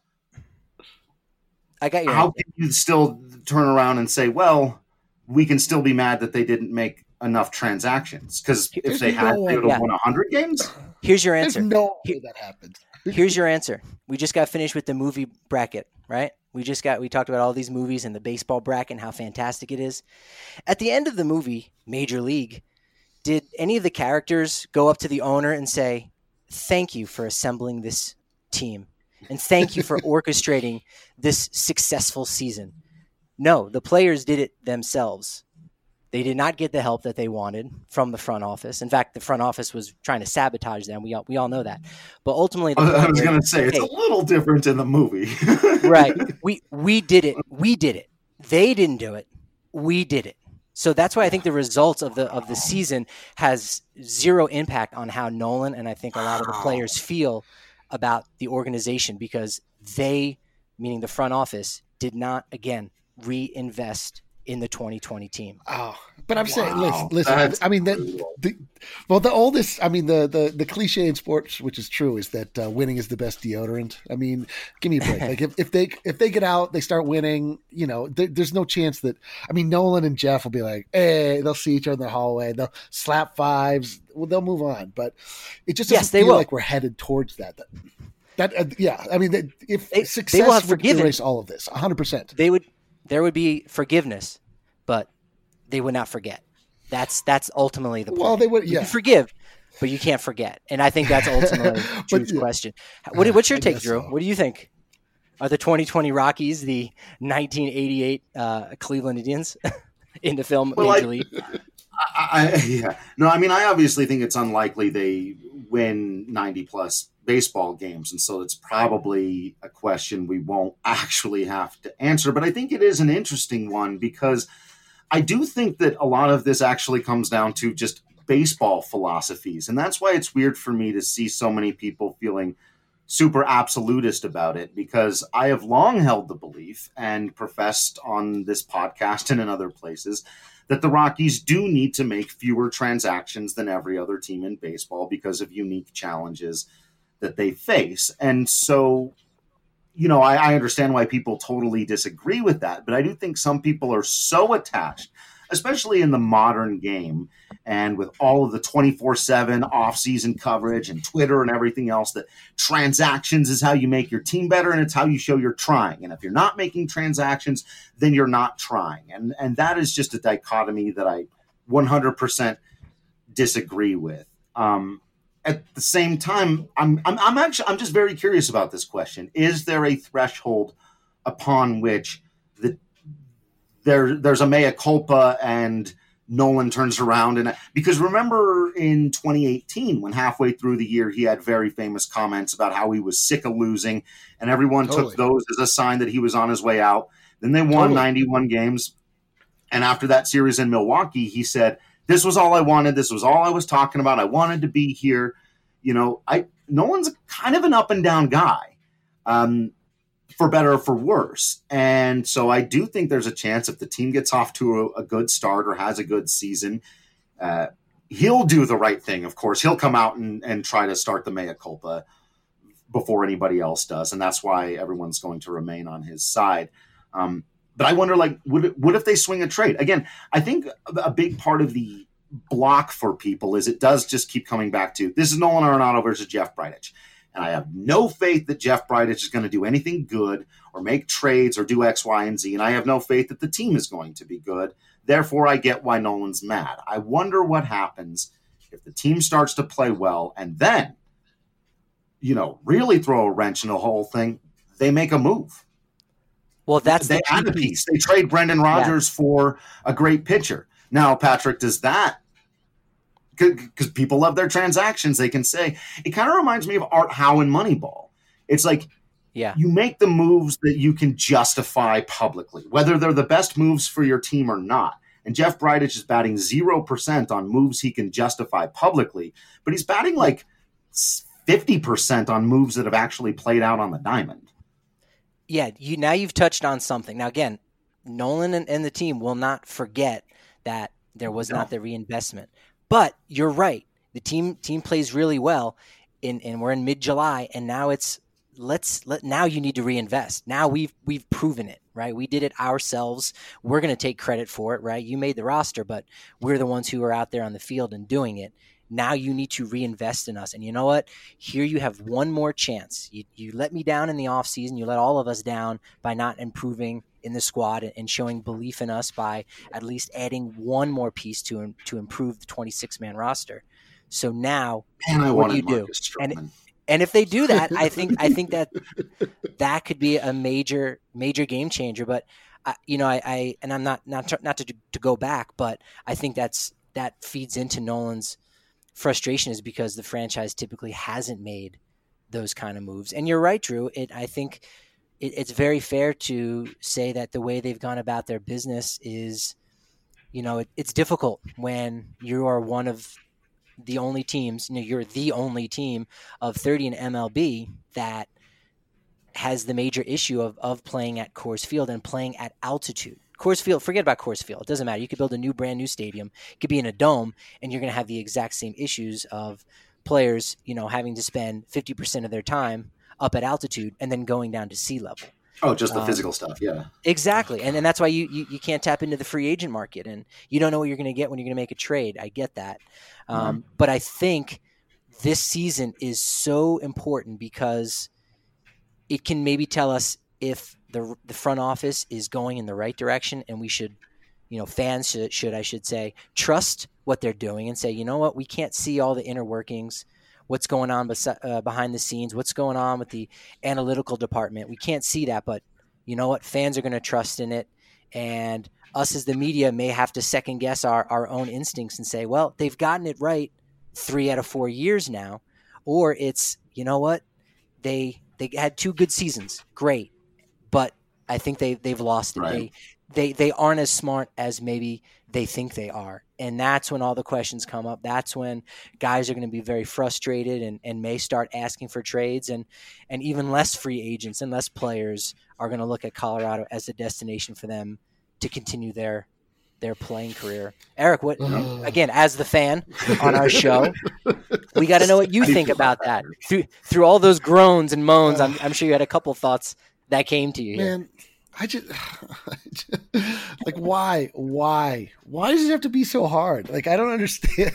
I got your How answer. can you still turn around and say, well, we can still be mad that they didn't make enough transactions? Because if There's they had, no they would way. have won one hundred games. Here's your There's answer. no way that happened. Here's your answer. We just got finished with the movie bracket, right? We just got we talked about all these movies and the baseball bracket and how fantastic it is. At the end of the movie, Major League, did any of the characters go up to the owner and say, "Thank you for assembling this team and thank you for orchestrating this successful season"? No, the players did it themselves. They did not get the help that they wanted from the front office. In fact, the front office was trying to sabotage them. We all, we all know that. But ultimately, the I was player- going to say it's hey, a little different in the movie, right. We we did it. We did it. They didn't do it. We did it. So that's why I think the results of the of the season has zero impact on how Nolan and I think a lot of the players feel about the organization, because they, meaning the front office, did not again reinvest in the twenty twenty team. Oh, but I'm saying, Wow, listen, listen. that's I mean, the, brutal. the well, the oldest. I mean, the the the cliche in sports, which is true, is that uh, winning is the best deodorant. I mean, give me a break. Like if, if they if they get out, they start winning. You know, there, there's no chance that. I mean, Nolan and Jeff will be like, hey, they'll see each other in the hallway. They'll slap fives. Well, they'll move on. But it just doesn't Yes, they feel will. like we're headed towards that. That, that uh, yeah. I mean, that, if They- they success will have would forgiven- erase all of this, one hundred percent. They would there would be forgiveness, but they would not forget. That's that's ultimately the point. Well, they would. You Yeah. can forgive, but you can't forget. And I think that's ultimately But, Drew's yeah. question. What, what's your I take, guess Drew? so. What do you think? Are the twenty twenty Rockies the nineteen eighty-eight uh, Cleveland Indians in the film Well, Major I- League? I, I, yeah, no, I mean, I obviously think it's unlikely they win ninety plus baseball games, and so it's probably a question we won't actually have to answer. But I think it is an interesting one because I do think that a lot of this actually comes down to just baseball philosophies, and that's why it's weird for me to see so many people feeling super absolutist about it, because I have long held the belief and professed on this podcast and in other places that the Rockies do need to make fewer transactions than every other team in baseball because of unique challenges that they face. And so, you know, I, I understand why people totally disagree with that, but I do think some people are so attached, especially in the modern game and with all of the twenty-four seven off-season coverage and Twitter and everything else, that transactions is how you make your team better and it's how you show you're trying. And if you're not making transactions, then you're not trying. And and that is just a dichotomy that I one hundred percent disagree with. Um, at the same time, I'm, I'm I'm actually I'm just very curious about this question. Is there a threshold upon which the there there's a mea culpa and Nolan turns around? And because remember in twenty eighteen, when halfway through the year he had very famous comments about how he was sick of losing, and everyone Totally. took those as a sign that he was on his way out. Then they won Totally. ninety-one games, and after that series in Milwaukee, he said, "This was all I wanted. This was all I was talking about. I wanted to be here." You know, I Nolan's kind of an up and down guy. Um, for better or for worse. And so I do think there's a chance if the team gets off to a, a good start or has a good season, uh, he'll do the right thing. Of course, he'll come out and, and try to start the mea culpa before anybody else does. And that's why everyone's going to remain on his side. Um, but I wonder, like, would, it, what if they swing a trade? Again, I think a big part of the block for people is it does just keep coming back to this is Nolan Arenado versus Jeff Bridich. And I have no faith that Jeff Bridich is going to do anything good or make trades or do X, Y, and Z. And I have no faith that the team is going to be good. Therefore, I get why Nolan's mad. I wonder what happens if the team starts to play well and then, you know, really throw a wrench in the whole thing. They make a move. Well, that's they the add a piece. They trade Brendan Rodgers yeah. for a great pitcher. Now, Patrick, does that, because people love their transactions, they can say, it kind of reminds me of Art Howe in Moneyball. It's like, yeah, you make the moves that you can justify publicly, whether they're the best moves for your team or not. And Jeff Bridich is batting zero percent on moves he can justify publicly, but he's batting like fifty percent on moves that have actually played out on the diamond. Yeah, you now you've touched on something. Now, again, Nolan and, and the team will not forget that there was no. not the reinvestment. But you're right. The team team plays really well, in, and we're in mid-July, and now it's let's let now you need to reinvest. Now we've we've proven it, right? We did it ourselves. We're going to take credit for it, right? You made the roster, but we're the ones who are out there on the field and doing it. Now you need to reinvest in us. And you know what? Here you have one more chance. You you let me down in the offseason. You let all of us down by not improving in the squad and showing belief in us by at least adding one more piece to to improve the twenty-six man roster. So now, Man, I what do you do? Marcus And Stroman. and if they do that, I think I think that that could be a major major game changer. But I, you know, I, I and I'm not not not to to go back, but I think that's that feeds into Nolan's frustration, is because the franchise typically hasn't made those kind of moves. And you're right, Drew. It I think. It's very fair to say that the way they've gone about their business is, you know, it, it's difficult when you are one of the only teams, you know, you're the only team of thirty in M L B that has the major issue of, of playing at Coors Field and playing at altitude. Coors Field, forget about Coors Field. It doesn't matter. You could build a new brand new stadium. It could be in a dome, and you're going to have the exact same issues of players, you know, having to spend fifty percent of their time up at altitude and then going down to sea level. Oh, just the um, physical stuff. Yeah, exactly. And, and that's why you, you, you can't tap into the free agent market, and you don't know what you're going to get when you're going to make a trade. I get that. Um, mm-hmm. But I think this season is so important because it can maybe tell us if the the front office is going in the right direction, and we should, you know, fans should, should I should say, trust what they're doing and say, you know what, we can't see all the inner workings, what's going on bes- uh, behind the scenes, what's going on with the analytical department. We can't see that, but you know what? Fans are going to trust in it. And us as the media may have to second guess our, our own instincts and say, well, they've gotten it right three out of four years now. Or it's, you know what? They they had two good seasons. Great. But I think they, they've lost it. Right. They, they, they aren't as smart as maybe they think they are. And that's when all the questions come up. That's when guys are going to be very frustrated and, and may start asking for trades, and, and even less free agents and less players are going to look at Colorado as a destination for them to continue their their playing career. Eric, what again, as the fan on our show, we got to know what you think about that. Through through all those groans and moans, I'm, I'm sure you had a couple thoughts that came to you here. Man, I just, I just like why why why does it have to be so hard? Like, I don't understand.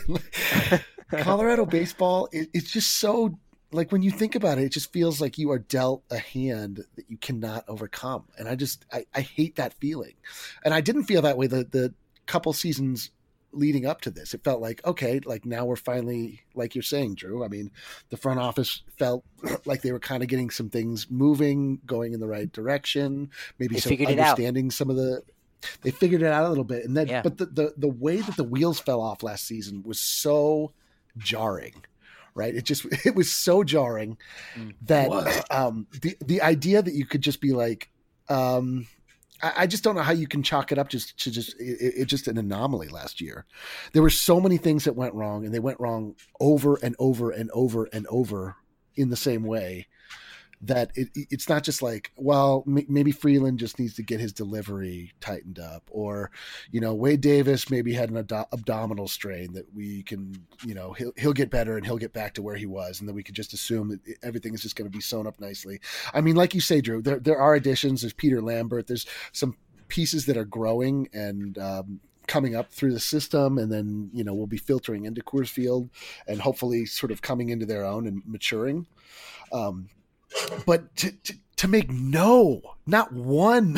Colorado baseball, it, it's just so, like, when you think about it, it just feels like you are dealt a hand that you cannot overcome. And I just I, I hate that feeling. And I didn't feel that way the the couple seasons leading up to this. It felt like, okay, like now we're finally, like you're saying, Drew, I mean, the front office felt like they were kind of getting some things moving, going in the right direction, maybe they some understanding some of the, they figured it out a little bit. And then, yeah. but the, the, the way that the wheels fell off last season was so jarring, right? It just, it was so jarring that um, the, the idea that you could just be like, um, I just don't know how you can chalk it up just to just it, it just an anomaly last year. There were so many things that went wrong, and they went wrong over and over and over and over in the same way, that it, it's not just like, well, m- maybe Freeland just needs to get his delivery tightened up, or, you know, Wade Davis maybe had an ad- abdominal strain that we can, you know, he'll, he'll get better and he'll get back to where he was. And then we could just assume that everything is just going to be sewn up nicely. I mean, like you say, Drew, there, there are additions. There's Peter Lambert. There's some pieces that are growing, and um, coming up through the system, and then, you know, we'll be filtering into Coors Field and hopefully sort of coming into their own and maturing. Um, but to, to, to make no, not one,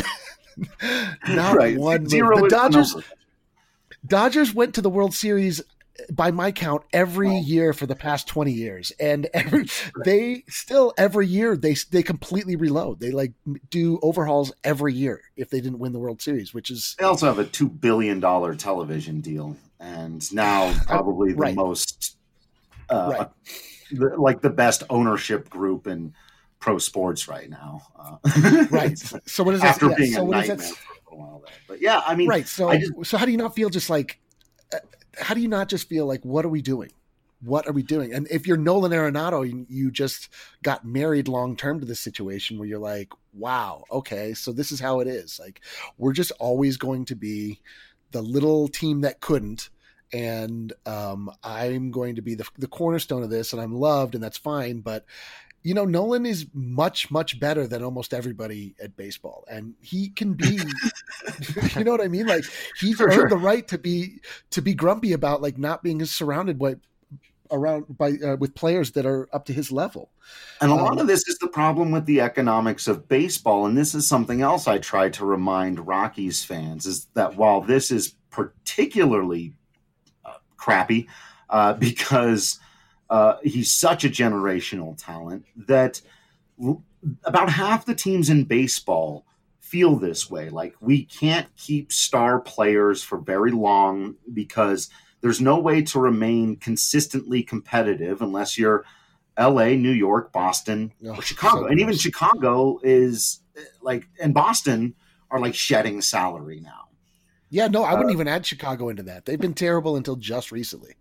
not right. one. Zero the Dodgers, number. Dodgers went to the World Series by my count every oh. year for the past twenty years. And every, they still every year they, they completely reload. They like do overhauls every year if they didn't win the World Series, which is, they also have a two billion dollars television deal. And now probably the right. most, uh, right. the, like the best ownership group in pro sports right now. Uh, right. So what does that, after yeah, being so a what nightmare does that, for a while there. But yeah, I mean, right. So, just, so how do you not feel just like, uh, how do you not just feel like, what are we doing? What are we doing? And if you're Nolan Arenado, you, you just got married long-term to this situation where you're like, wow, okay, so this is how it is. Like, we're just always going to be the little team that couldn't. And um, I'm going to be the, the cornerstone of this, and I'm loved, and that's fine. But, you know, Nolan is much, much better than almost everybody at baseball. And he can be, you know what I mean? Like, he's For earned sure. the right to be, to be grumpy about like not being surrounded by, around by, uh, with players that are up to his level. And a lot Um, of this is the problem with the economics of baseball. And this is something else I try to remind Rockies fans, is that while this is particularly uh, crappy uh, because uh, he's such a generational talent, that l- about half the teams in baseball feel this way. Like, we can't keep star players for very long because there's no way to remain consistently competitive unless you're L A, New York, Boston, Oh, or Chicago. so and even gross. Chicago is like, and Boston are like shedding salary now. yeah, no, I wouldn't Uh, even add Chicago into that. They've been terrible until just recently.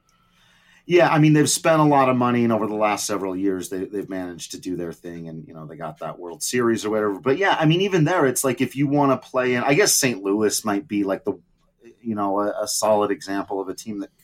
Yeah, I mean, they've spent a lot of money, and over the last several years, they, they've managed to do their thing, and, you know, they got that World Series or whatever. But yeah, I mean, even there, it's like, if you want to play in, I guess Saint Louis might be like the, you know, a, a solid example of a team that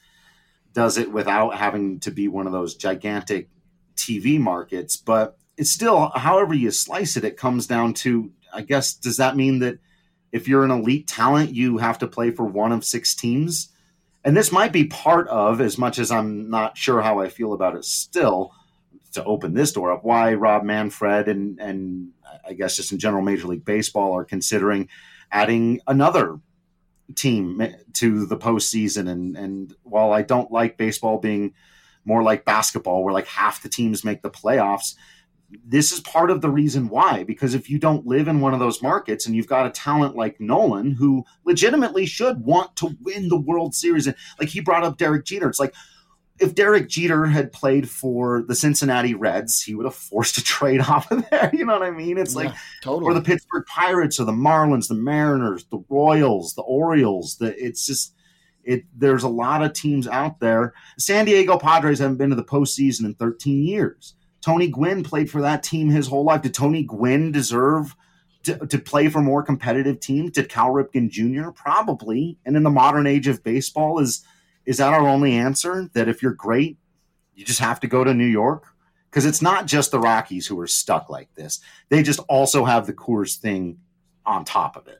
does it without having to be one of those gigantic T V markets. But it's still, however you slice it, it comes down to, I guess, does that mean that if you're an elite talent, you have to play for one of six teams? And this might be part of, as much as I'm not sure how I feel about it still, to open this door up, why Rob Manfred and, and I guess just in general Major League Baseball are considering adding another team to the postseason. And, and while I don't like baseball being more like basketball, where like half the teams make the playoffs, this is part of the reason why. Because if you don't live in one of those markets and you've got a talent like Nolan, who legitimately should want to win the World Series, and like he brought up Derek Jeter, it's like, if Derek Jeter had played for the Cincinnati Reds, he would have forced a trade off of there. You know what I mean? It's like, Yeah, totally. or the Pittsburgh Pirates, or the Marlins, the Mariners, the Royals, the Orioles. The, it's just, it. There's a lot of teams out there. San Diego Padres haven't been to the postseason in thirteen years. Tony Gwynn played for that team his whole life. Did Tony Gwynn deserve to, to play for more competitive teams? Did Cal Ripken Junior? Probably. And in the modern age of baseball, is is that our only answer? That if you're great, you just have to go to New York? Because it's not just the Rockies who are stuck like this. They just also have the Coors thing on top of it.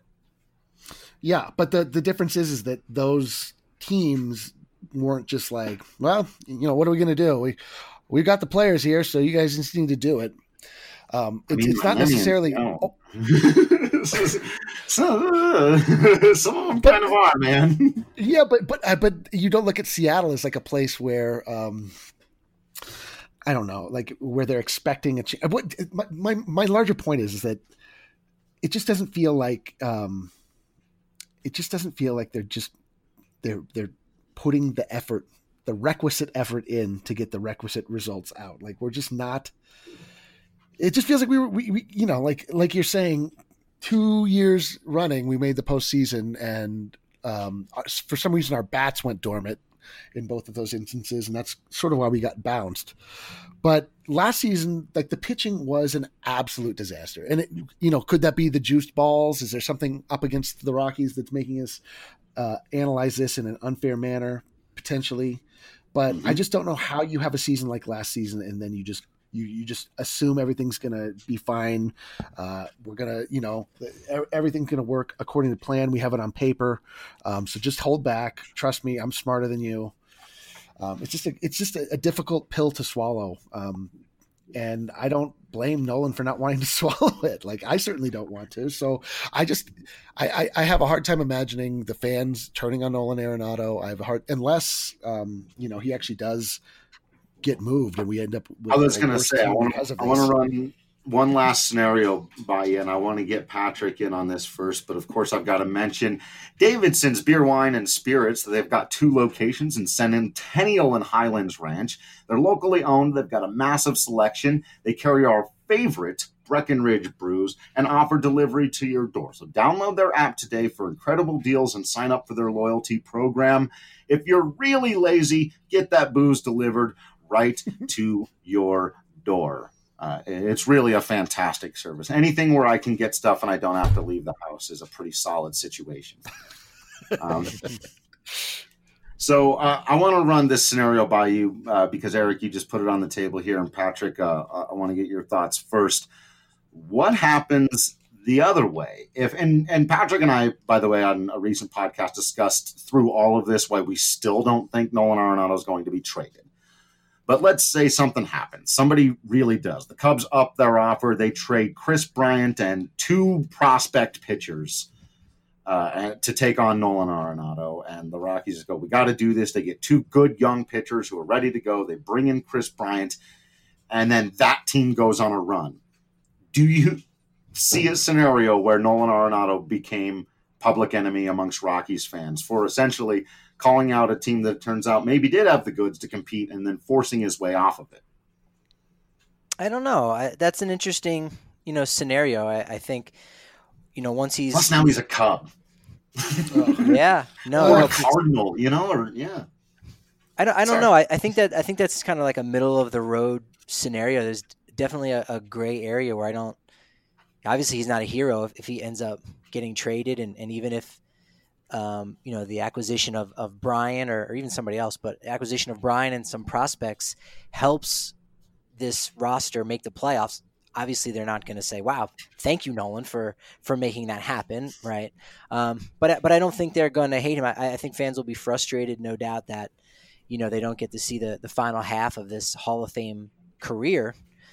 Yeah, but the, the difference is is that those teams weren't just like, well, you know, what are we going to do? We we got the players here, so you guys just need to do it. Um, I it's, mean, it's not Miami, necessarily. no. Oh, so, uh, some of them kind of are, man. yeah, but but uh, but you don't look at Seattle as like a place where. Um, I don't know, like where they're expecting a ch- what my, my my larger point is is that it just doesn't feel like um, it just doesn't feel like they're just they're they're putting the effort, the requisite effort in to get the requisite results out. Like we're just not. It just feels like we were we, we you know like like you're saying, two years running we made the postseason, and um, for some reason our bats went dormant in both of those instances, and that's sort of why we got bounced. But last season, like the pitching was an absolute disaster. And it, you know, could that be the juiced balls? Is there something up against the Rockies that's making us uh, analyze this in an unfair manner, potentially? But mm-hmm. I just don't know how you have a season like last season and then you just you you just assume everything's going to be fine. Uh, we're going to, you know, everything's going to work according to plan. We have it on paper. Um, so just hold back. Trust me, I'm smarter than you. Um, it's just a, it's just a, a difficult pill to swallow. Um, and I don't blame Nolan for not wanting to swallow it. Like, I certainly don't want to. So I just, I, I, I have a hard time imagining the fans turning on Nolan Arenado. I have a hard, unless, um, you know, he actually does get moved and we end up with I was going to say, I want to run one last scenario by you, and I want to get Patrick in on this first, but of course I've got to mention Davidson's Beer, Wine, and Spirits. They've got two locations in Centennial and Highlands Ranch. They're locally owned. They've got a massive selection. They carry our favorite Breckenridge brews and offer delivery to your door. So download their app today for incredible deals and sign up for their loyalty program. If you're really lazy, get that booze delivered right to your door. Uh, it's really a fantastic service. Anything where I can get stuff and I don't have to leave the house is a pretty solid situation. Um, so uh, I want to run this scenario by you uh, because, Eric, you just put it on the table here. And, Patrick, uh, I want to get your thoughts first. What happens the other way? If and, and Patrick and I, by the way, on a recent podcast discussed through all of this why we still don't think Nolan Arenado is going to be traded. But let's say something happens. Somebody really does. The Cubs up their offer. They trade Kris Bryant and two prospect pitchers uh, to take on Nolan Arenado. And the Rockies just go, we got to do this. They get two good young pitchers who are ready to go. They bring in Kris Bryant. And then that team goes on a run. Do you see a scenario where Nolan Arenado became public enemy amongst Rockies fans for essentially calling out a team that turns out maybe did have the goods to compete and then forcing his way off of it? I don't know. I, that's an interesting, you know, scenario. I, I think, you know, once he's plus now he's a Cub. uh, yeah, no, or no, a Cardinal, you know, or yeah. I don't. I don't Sorry. know. I, I think that I think that's kind of like a middle of the road scenario. There's definitely a, a gray area where I don't. Obviously, he's not a hero if, if he ends up getting traded, and, and even if. Um, you know, the acquisition of, of Brian or, or even somebody else, but acquisition of Brian and some prospects helps this roster make the playoffs. Obviously, they're not going to say, wow, thank you, Nolan, for, for making that happen, right? Um, but but I don't think they're going to hate him. I, I think fans will be frustrated, no doubt, that, you know, they don't get to see the, the final half of this Hall of Fame career.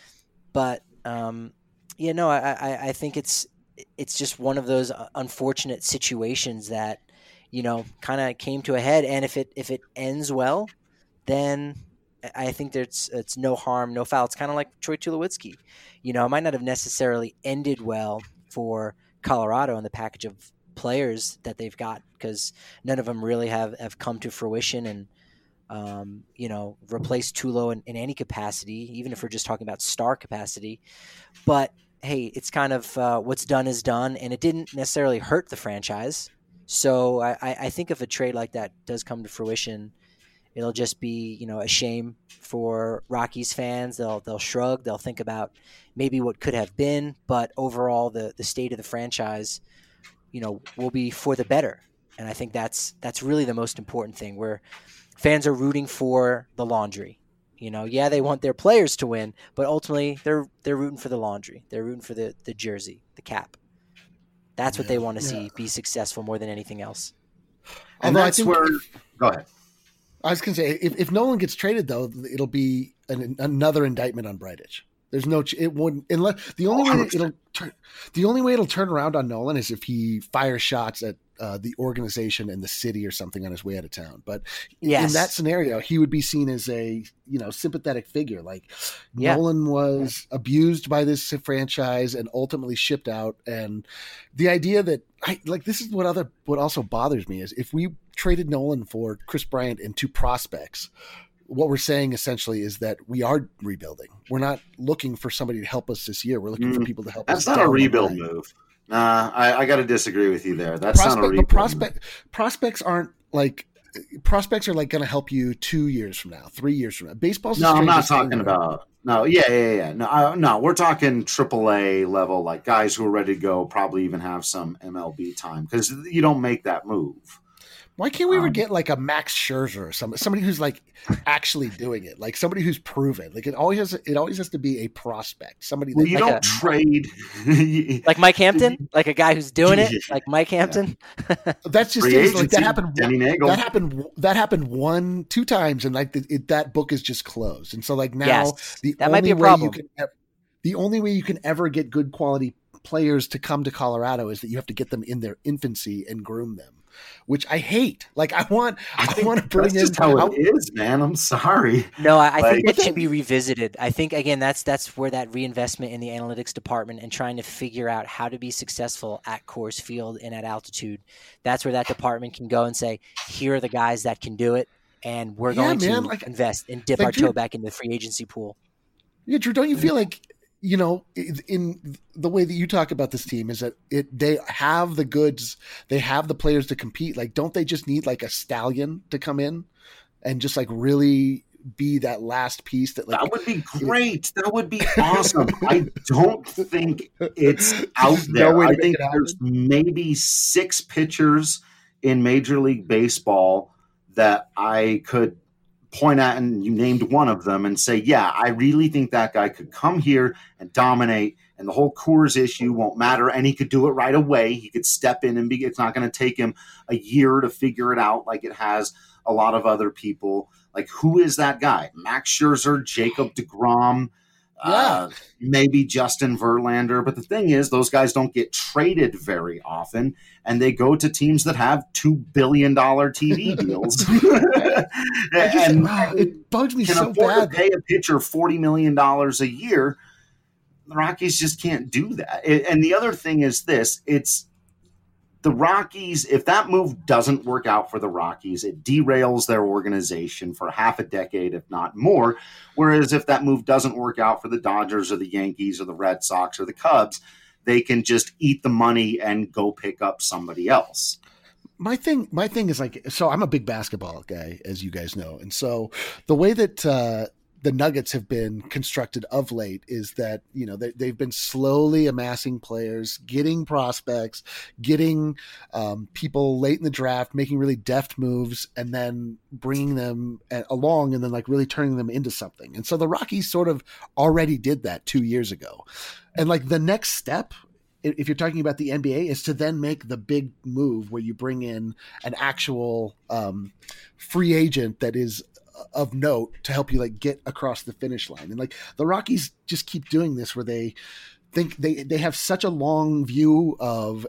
But, um, you know, I, I, I think it's it's just one of those unfortunate situations that, you know, kind of came to a head. And if it if it ends well, then I think there's it's no harm, no foul. It's kind of like Troy Tulowitzki. You know, it might not have necessarily ended well for Colorado and the package of players that they've got because none of them really have, have come to fruition and, um, you know, replaced Tulo in, in any capacity, even if we're just talking about star capacity. But hey, it's kind of uh, what's done is done, and it didn't necessarily hurt the franchise. So I, I think if a trade like that does come to fruition, it'll just be, you know, a shame for Rockies fans. They'll they'll shrug. They'll think about maybe what could have been, but overall, the the state of the franchise, you know, will be for the better. And I think that's that's really the most important thing. Where fans are rooting for the laundry. You know, yeah, they want their players to win, but ultimately they're they're rooting for the laundry. They're rooting for the, the jersey, the cap. That's what yeah, they want to yeah. see be successful more than anything else. And Although that's I think where. If, go ahead. I was going to say, if, if Nolan gets traded, though, it'll be an, another indictment on Bridich. There's no, it wouldn't, unless the only way it'll turn, the only way it'll turn around on Nolan is if he fires shots at uh, the organization and the city or something on his way out of town. But yes. in that scenario, he would be seen as a, you know, sympathetic figure. Like yeah. Nolan was yeah. abused by this franchise and ultimately shipped out. And the idea that I like, this is what other, what also bothers me is if we traded Nolan for Kris Bryant and two prospects, what we're saying essentially is that we are rebuilding. We're not looking for somebody to help us this year. We're looking mm. for people to help That's us. That's not a rebuild move. Nah, I, I got to disagree with you there. That's prospect, not a rebuild prospect, move. Prospects aren't like prospects are like going to help you two years from now, three years from now. Baseball's no, I'm not talking about. No, yeah, yeah, yeah. No, I, no, we're talking triple A level, like guys who are ready to go, probably even have some M L B time because you don't make that move. Why can't we ever Um, get like a Max Scherzer or somebody, somebody who's like actually doing it, like somebody who's proven? Like it always has, it always has to be a prospect, somebody that Well, you Like don't a- trade. Like Mike Hampton, like a guy who's doing it, like Mike Hampton. that's just Free is, like agency, that happened. Denny Nagel. That happened. That happened one, two times, and like it, it, that book is just closed. And so like now Yes, the that only might be a way problem. you can, ev- the only way you can ever get good quality players to come to Colorado is that you have to get them in their infancy and groom them, which I hate. Like I want, I, think want to bring that's in. just how I- it is, man. I'm sorry. No, I, I Like- think But that then- should be revisited. I think again that's that's where that reinvestment in the analytics department and trying to figure out how to be successful at Coors Field and at altitude. That's where that department can go and say, here are the guys that can do it, and we're Yeah, going man, to like- invest and dip like, our Drew- toe back into the free agency pool. Yeah, Drew, don't you feel like, you know, in- in the way that you talk about this team is that it they have the goods, they have the players to compete. Like, don't they just need like a stallion to come in and just like really be that last piece that like That would be great. That would be awesome. I don't think it's out There's no there. way to I make think it happen. there's maybe six pitchers in Major League Baseball that I could point at, and you named one of them, and say, yeah, I really think that guy could come here and dominate, and the whole Coors issue won't matter, and he could do it right away. He could step in and be, it's not going to take him a year to figure it out like it has a lot of other people. Like, who is that guy? Max Scherzer, Jacob deGrom, uh, maybe Justin Verlander. But the thing is, those guys don't get traded very often, and they go to teams that have two billion dollars T V deals. I just, and wow, it bugs me can so afford bad. to pay a pitcher forty million dollars a year. The Rockies just can't do that. It- and the other thing is this, it's the Rockies, if that move doesn't work out for the Rockies, it derails their organization for half a decade, if not more. Whereas if that move doesn't work out for the Dodgers or the Yankees or the Red Sox or the Cubs, they can just eat the money and go pick up somebody else. My thing, my thing is like, so I'm a big basketball guy, as you guys know. And so the way that, uh, the Nuggets have been constructed of late is that, you know, they, they've been slowly amassing players, getting prospects, getting um, people late in the draft, making really deft moves, and then bringing them along and then like really turning them into something. And so the Rockies sort of already did that two years ago. And like the next step, if you're talking about the N B A, is to then make the big move where you bring in an actual um, free agent that is of note to help you like get across the finish line. And like the Rockies just keep doing this where they think they, they have such a long view of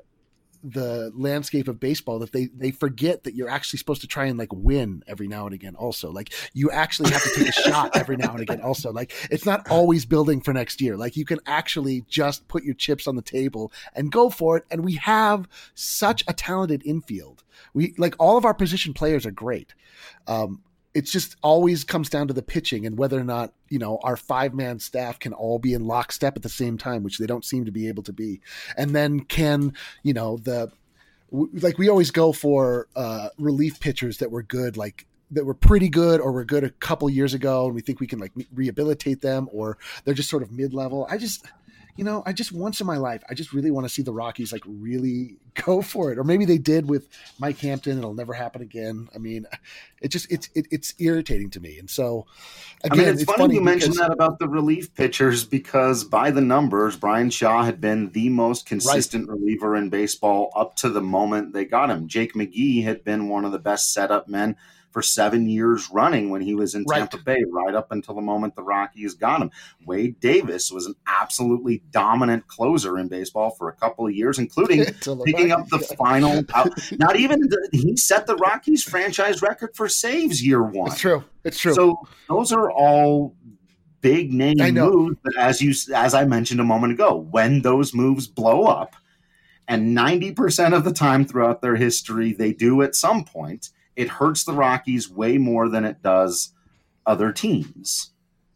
the landscape of baseball that they, they forget that you're actually supposed to try and like win every now and again. Also, like you actually have to take a shot every now and again. Also, like it's not always building for next year. Like you can actually just put your chips on the table and go for it. And we have such a talented infield. We like all of our position players are great. Um, It's just always comes down to the pitching and whether or not, you know, our five man staff can all be in lockstep at the same time, which they don't seem to be able to be. And then can, you know, the, like we always go for uh, relief pitchers that were good, like that were pretty good or were good a couple years ago. And we think we can like rehabilitate them or they're just sort of mid-level. I just, you know, I just once in my life, I just really want to see the Rockies like really go for it. Or maybe they did with Mike Hampton. It'll never happen again. I mean, it just, it's, it, it's irritating to me. And so again, I mean, it's, it's funny, funny you mentioned because- that about the relief pitchers because by the numbers, Brian Shaw had been the most consistent reliever in baseball up to the moment they got him. Jake McGee had been one of the best setup men for seven years running when he was in Right. Tampa Bay, right up until the moment the Rockies got him. Wade Davis was an absolutely dominant closer in baseball for a couple of years, including Till the picking up the Rockies- final. Out, not even the, he set the Rockies franchise record for saves year one. It's true. It's true. So those are all big name I know. moves. But as you, as I mentioned a moment ago, when those moves blow up, and ninety percent of the time throughout their history, they do at some point, it hurts the Rockies way more than it does other teams.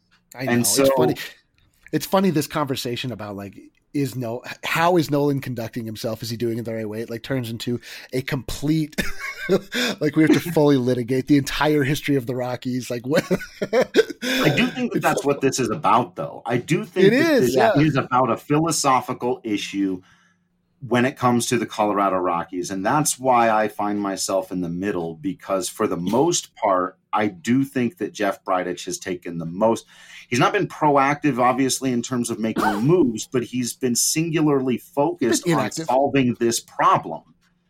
I know. and it's so- funny. It's funny this conversation about like is no how is Nolan conducting himself? Is he doing it the right way? It like turns into a complete like we have to fully litigate the entire history of the Rockies. Like what? I do think that that's what this is about, though. I do think It that is, this yeah. is about a philosophical issue when it comes to the Colorado Rockies. And that's why I find myself in the middle, because for the most part, I do think that Jeff Bridich has taken the most. He's not been proactive, obviously, in terms of making moves, but he's been singularly focused on solving this problem.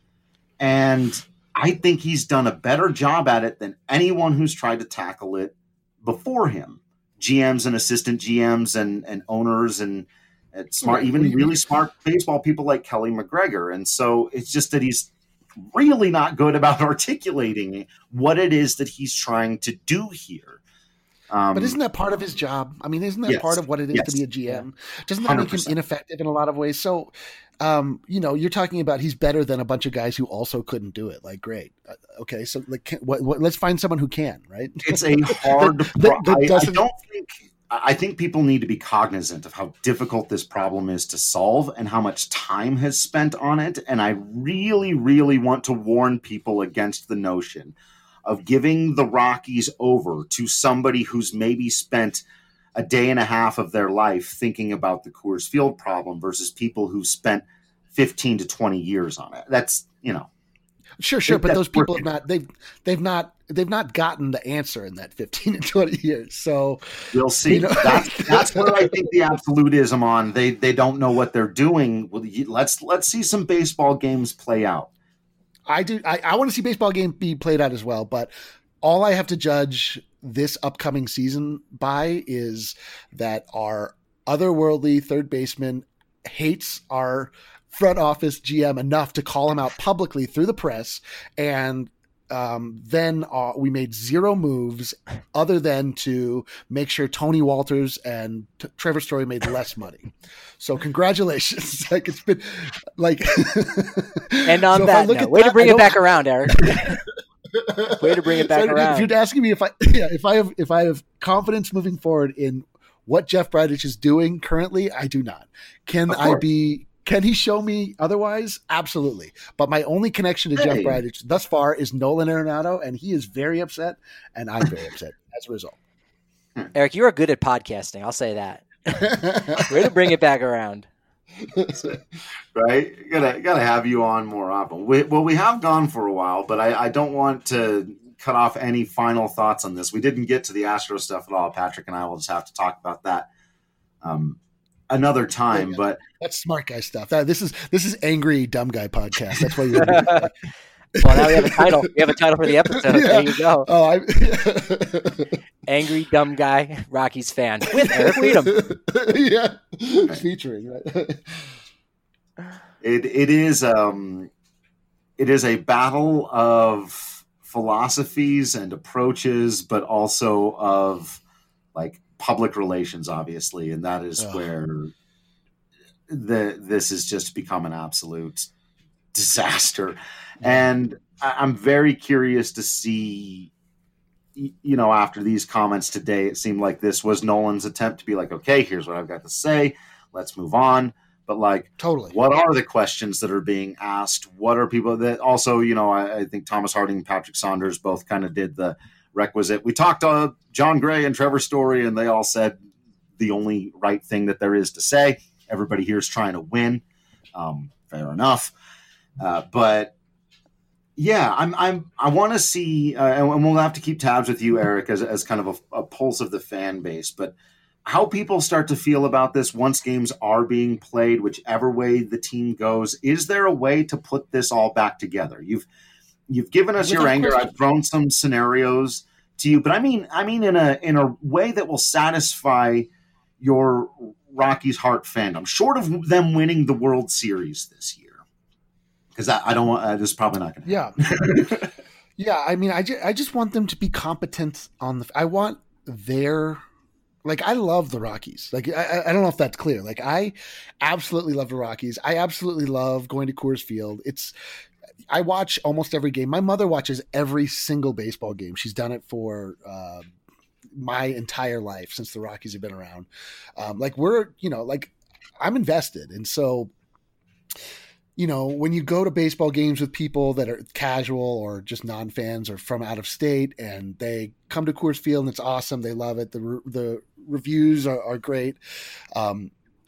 And I think he's done a better job at it than anyone who's tried to tackle it before him. G Ms and assistant G Ms and, and owners and, and smart, even really smart baseball people like Kelly McGregor. And so it's just that he's really not good about articulating what it is that he's trying to do here. Um, but isn't that part of his job? I mean, isn't that yes, part of what it is yes, to be a G M? Doesn't that one hundred make him percent ineffective in a lot of ways? So, um, you know, you're talking about he's better than a bunch of guys who also couldn't do it. Like, great. Uh, okay. So like, can, what, what, let's find someone who can, right? It's a hard, that, that, that I, I doesn't... don't think, I think people need to be cognizant of how difficult this problem is to solve and how much time has spent on it. And I really, really want to warn people against the notion of giving the Rockies over to somebody who's maybe spent a day and a half of their life thinking about the Coors Field problem versus people who spent fifteen to twenty years on it. That's, you know. Sure, sure. But those people have not, they've, they've not, they've not gotten the answer in that fifteen to twenty years. So we'll see. You know? That's, that's where I think the absolutism on, they, they don't know what they're doing. Well, let's, let's see some baseball games play out. I do. I, I want to see baseball game be played out as well, but all I have to judge this upcoming season by is that our otherworldly third baseman hates our front office G M enough to call him out publicly through the press. And um, then uh, we made zero moves other than to make sure Tony Walters and T- Trevor Story made less money. So congratulations. Like it's been like, and on so that note, way that, to bring it back around, Eric. Way to bring it back so around. If you're asking me if I, yeah, if I have, if I have confidence moving forward in what Jeff Bridich is doing currently, I do not. Can I be, can he show me otherwise? Absolutely. But my only connection to hey. Jeff Bridich thus far is Nolan Arenado, and he is very upset, and I'm very upset as a result. Eric, you are good at podcasting. I'll say that. Way to bring it back around. Right? Gotta gotta have you on more often. We, well, we have gone for a while, but I, I don't want to cut off any final thoughts on this. We didn't get to the Astro stuff at all. Patrick and I will just have to talk about that um, another time. Yeah, but that's smart guy stuff. That, this is this is angry dumb guy podcast. That's why you're. Well, now we have a title. We have a title for the episode. Yeah. There you go. Oh, I... Angry Dumb Guy Rockies fan with Eric Weedham. Yeah, featuring right. It it is um, it is a battle of philosophies and approaches, but also of like public relations, obviously, and that is oh. where the this has just become an absolute disaster. And I'm very curious to see, you know, after these comments today, it seemed like this was Nolan's attempt to be like, okay, here's what I've got to say. Let's move on. But like, totally, what are the questions that are being asked? What are people that also, you know, I, I think Thomas Harding and Patrick Saunders both kind of did the requisite. We talked to John Gray and Trevor Story, and they all said the only right thing that there is to say. Everybody here is trying to win. Um, fair enough. Uh, but yeah, I'm, I'm, I want to see, uh, and we'll have to keep tabs with you, Eric, as, as kind of a, a pulse of the fan base, but how people start to feel about this once games are being played, whichever way the team goes. Is there a way to put this all back together? You've, you've given us your anger. I've thrown some scenarios to you, but I mean, I mean, in a, in a way that will satisfy your Rockies heart fandom, short of them winning the World Series this year. Because I, I don't want, uh, this is probably not going to happen. Yeah. Yeah. I mean, I, ju- I just want them to be competent on the, I want their, like, I love the Rockies. Like, I, I don't know if that's clear. Like, I absolutely love the Rockies. I absolutely love going to Coors Field. It's, I watch almost every game. My mother watches every single baseball game. She's done it for, uh, my entire life since the Rockies have been around. Um, like we're, you know, like I'm invested. And so, you know, when you go to baseball games with people that are casual or just non-fans or from out of state and they come to Coors Field and it's awesome. They love it. The, the reviews are, are great. Um,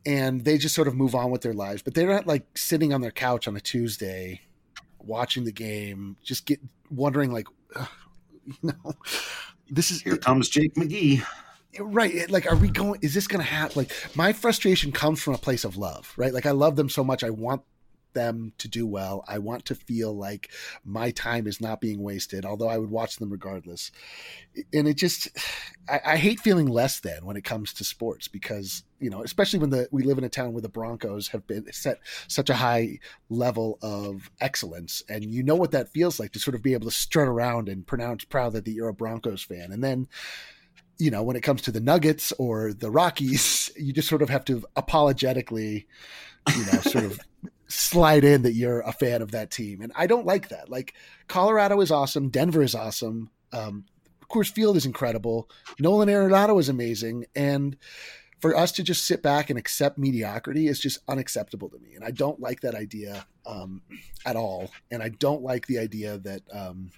and they just sort of move on with their lives. But they're not like sitting on their couch on a Tuesday watching the game, just get wondering like, you know, this is here comes Jake McGee. Right. Like, are we going, is this going to happen? Like, my frustration comes from a place of love, right? Like, I love them so much. I want them to do well. I want to feel like my time is not being wasted, although I would watch them regardless. And it just, I, I hate feeling less than when it comes to sports because, you know, especially when the we live in a town where the Broncos have been set such a high level of excellence. And you know what that feels like to sort of be able to strut around and pronounce proud that you're a Broncos fan. And then, you know, when it comes to the Nuggets or the Rockies, you just sort of have to apologetically, you know, sort of slide in that you're a fan of that team. And I don't like that. Like, Colorado is awesome. Denver is awesome. Um, Coors Field is incredible. Nolan Arenado is amazing. And for us to just sit back and accept mediocrity is just unacceptable to me. And I don't like that idea um, at all. And I don't like the idea that um,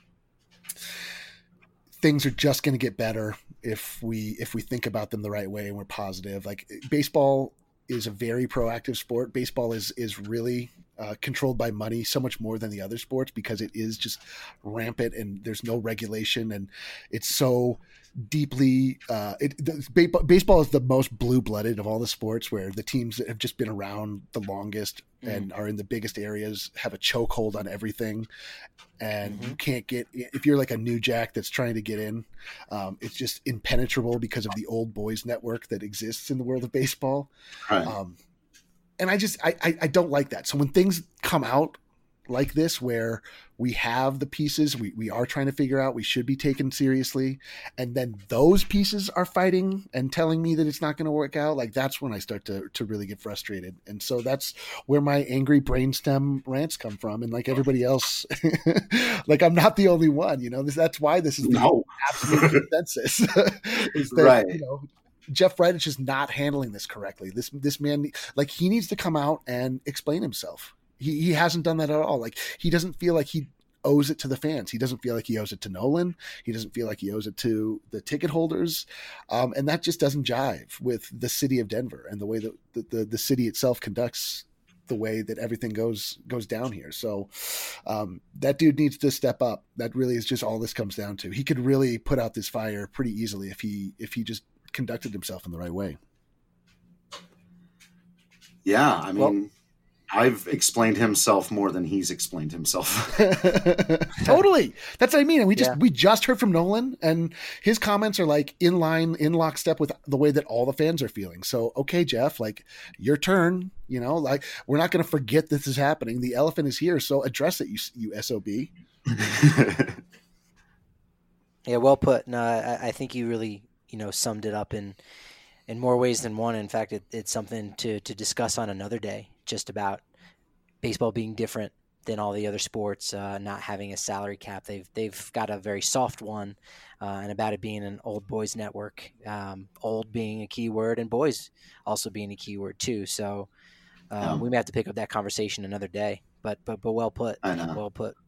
things are just going to get better if we if we think about them the right way and we're positive. Like, baseball is a very proactive sport. Baseball is is really uh, controlled by money so much more than the other sports because it is just rampant and there's no regulation and it's so deeply uh, it, the, baseball is the most blue-blooded of all the sports, where the teams that have just been around the longest mm. and are in the biggest areas have a chokehold on everything. And mm-hmm. you can't get, if you're like a new jack that's trying to get in, um, it's just impenetrable because of the old boys network that exists in the world of baseball. Right. Um, and I just, I, I, I don't like that. So when things come out like this, where we have the pieces we, we are trying to figure out, we should be taken seriously, and then those pieces are fighting and telling me that it's not going to work out, like, that's when I start to to really get frustrated. And so that's where my angry brainstem rants come from. And like everybody else, like, I'm not the only one, you know, this, that's why this is the no. absolute consensus is that, right. you know, Jeff Bridich is not handling this correctly. This, this man, like, he needs to come out and explain himself. He he hasn't done that at all. Like, he doesn't feel like he owes it to the fans. He doesn't feel like he owes it to Nolan. He doesn't feel like he owes it to the ticket holders. Um, and that just doesn't jive with the city of Denver and the way that the, the, the city itself conducts the way that everything goes goes down here. So um, that dude needs to step up. That really is just all this comes down to. He could really put out this fire pretty easily if he if he just conducted himself in the right way. Yeah, I mean, well, I've explained himself more than he's explained himself. Totally. That's what I mean. And we just, yeah. we just heard from Nolan, and his comments are like in line, in lockstep with the way that all the fans are feeling. So, okay, Jeff, like, your turn, you know, like, we're not going to forget this is happening. The elephant is here. So address it, you, you S O B. Yeah, well put. No, I, I think you really, you know, summed it up in, in more ways than one. In fact, it, it's something to, to discuss on another day, just about baseball being different than all the other sports, uh, not having a salary cap. They've they've got a very soft one, uh, and about it being an old boys network, um, old being a key word and boys also being a key word too. So uh, um, we may have to pick up that conversation another day, but but but well put. I know. Well put.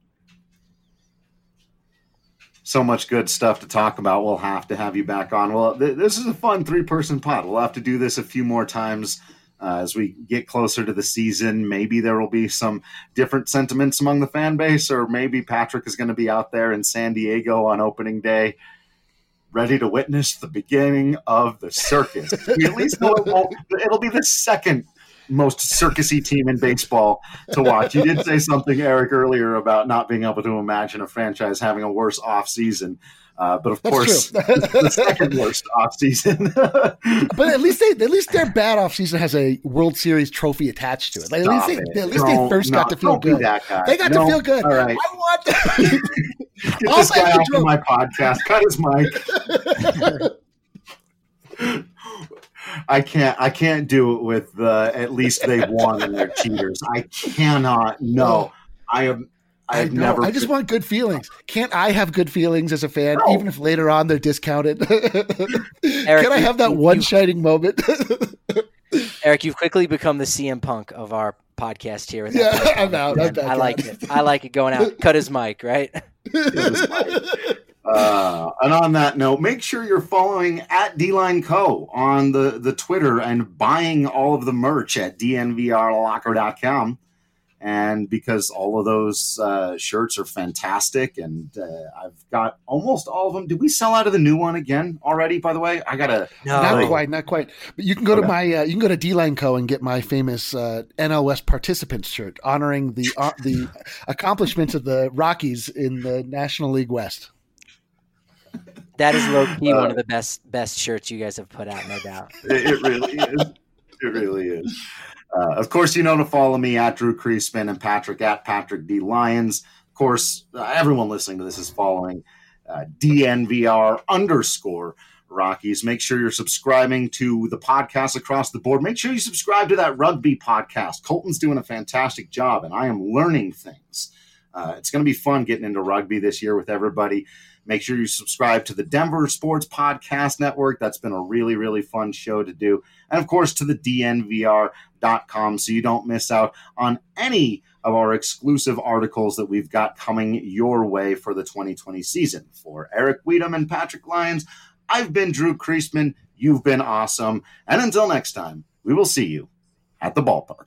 So much good stuff to talk about. We'll have to have you back on. Well, th- this is a fun three-person pod. We'll have to do this a few more times uh, as we get closer to the season. Maybe there will be some different sentiments among the fan base, or maybe Patrick is going to be out there in San Diego on opening day, ready to witness the beginning of the circus. We at least know it won't, it'll be the second most circusy team in baseball to watch. You did say something, Eric, earlier about not being able to imagine a franchise having a worse off season. Uh, but of That's course, the second worst off season. But at least they, at least their bad off season has a World Series trophy attached to it. Like, at least, they, at least they first no, got to feel good. They got no, to feel good. All right. I want to get this guy off of my podcast. Cut his mic. I can't. I can't do it with uh, at least they've won and they're cheaters. I cannot. No, I am. I've I know. never. I just want good feelings. Can't I have good feelings as a fan, No. even if later on they're discounted? Eric, Can I have that you, one you, shining moment? Eric, you've quickly become the C M Punk of our podcast here. With Yeah, that I'm out. I'm back I like out. it. I like it going out. Cut his mic, right? Uh, and on that note, make sure you're following at D-Line Co. on the, the Twitter and buying all of the merch at D N V R locker dot com. And because all of those uh, shirts are fantastic, and uh, I've got almost all of them. Did we sell out of the new one again already, by the way? I got to... No. Not quite, not quite. But you can go Okay. to my uh, you can go to D-Line Co. and get my famous uh, N L West participants shirt honoring the uh, the accomplishments of the Rockies in the National League West. That is low key Uh, one of the best best shirts you guys have put out, no doubt. It, it really is. It really is. Uh, of course, you know to follow me at Drew Creasman and Patrick at Patrick D. Lyons. Of course, uh, everyone listening to this is following uh, D N V R underscore Rockies. Make sure you're subscribing to the podcast across the board. Make sure you subscribe to that rugby podcast. Colton's doing a fantastic job, and I am learning things. Uh, it's going to be fun getting into rugby this year with everybody. Make sure you subscribe to the Denver Sports Podcast Network. That's been a really, really fun show to do. And, of course, to the D N V R dot com so you don't miss out on any of our exclusive articles that we've got coming your way for the twenty twenty season. For Eric Weedham and Patrick Lyons, I've been Drew Creasman. You've been awesome. And until next time, we will see you at the ballpark.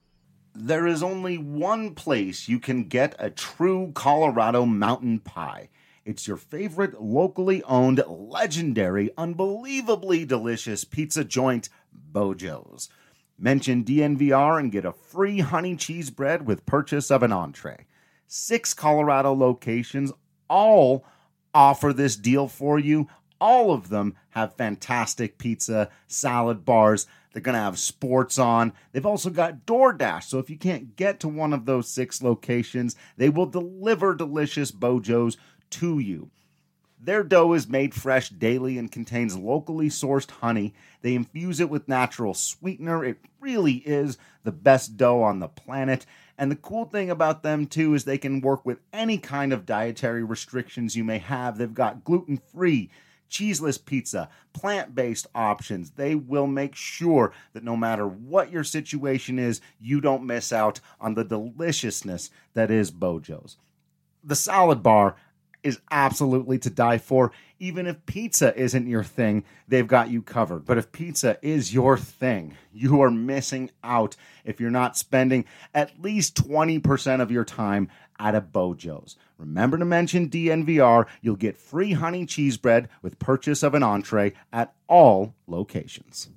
There is only one place you can get a true Colorado mountain pie. It's your favorite locally owned, legendary, unbelievably delicious pizza joint, Bojo's. Mention D N V R and get a free honey cheese bread with purchase of an entree. Six Colorado locations all offer this deal for you. All of them have fantastic pizza, salad bars. They're going to have sports on. They've also got DoorDash, so if you can't get to one of those six locations, they will deliver delicious Bojo's to you. Their dough is made fresh daily and contains locally sourced honey. They infuse it with natural sweetener. It really is the best dough on the planet. And the cool thing about them, too, is they can work with any kind of dietary restrictions you may have. They've got gluten-free, cheeseless pizza, plant-based options. They will make sure that no matter what your situation is, you don't miss out on the deliciousness that is Bojo's. The salad bar is absolutely to die for. Even if pizza isn't your thing, they've got you covered. But if pizza is your thing, you are missing out if you're not spending at least twenty percent of your time at a Bojo's. Remember to mention D N V R. You'll get free honey cheese bread with purchase of an entree at all locations.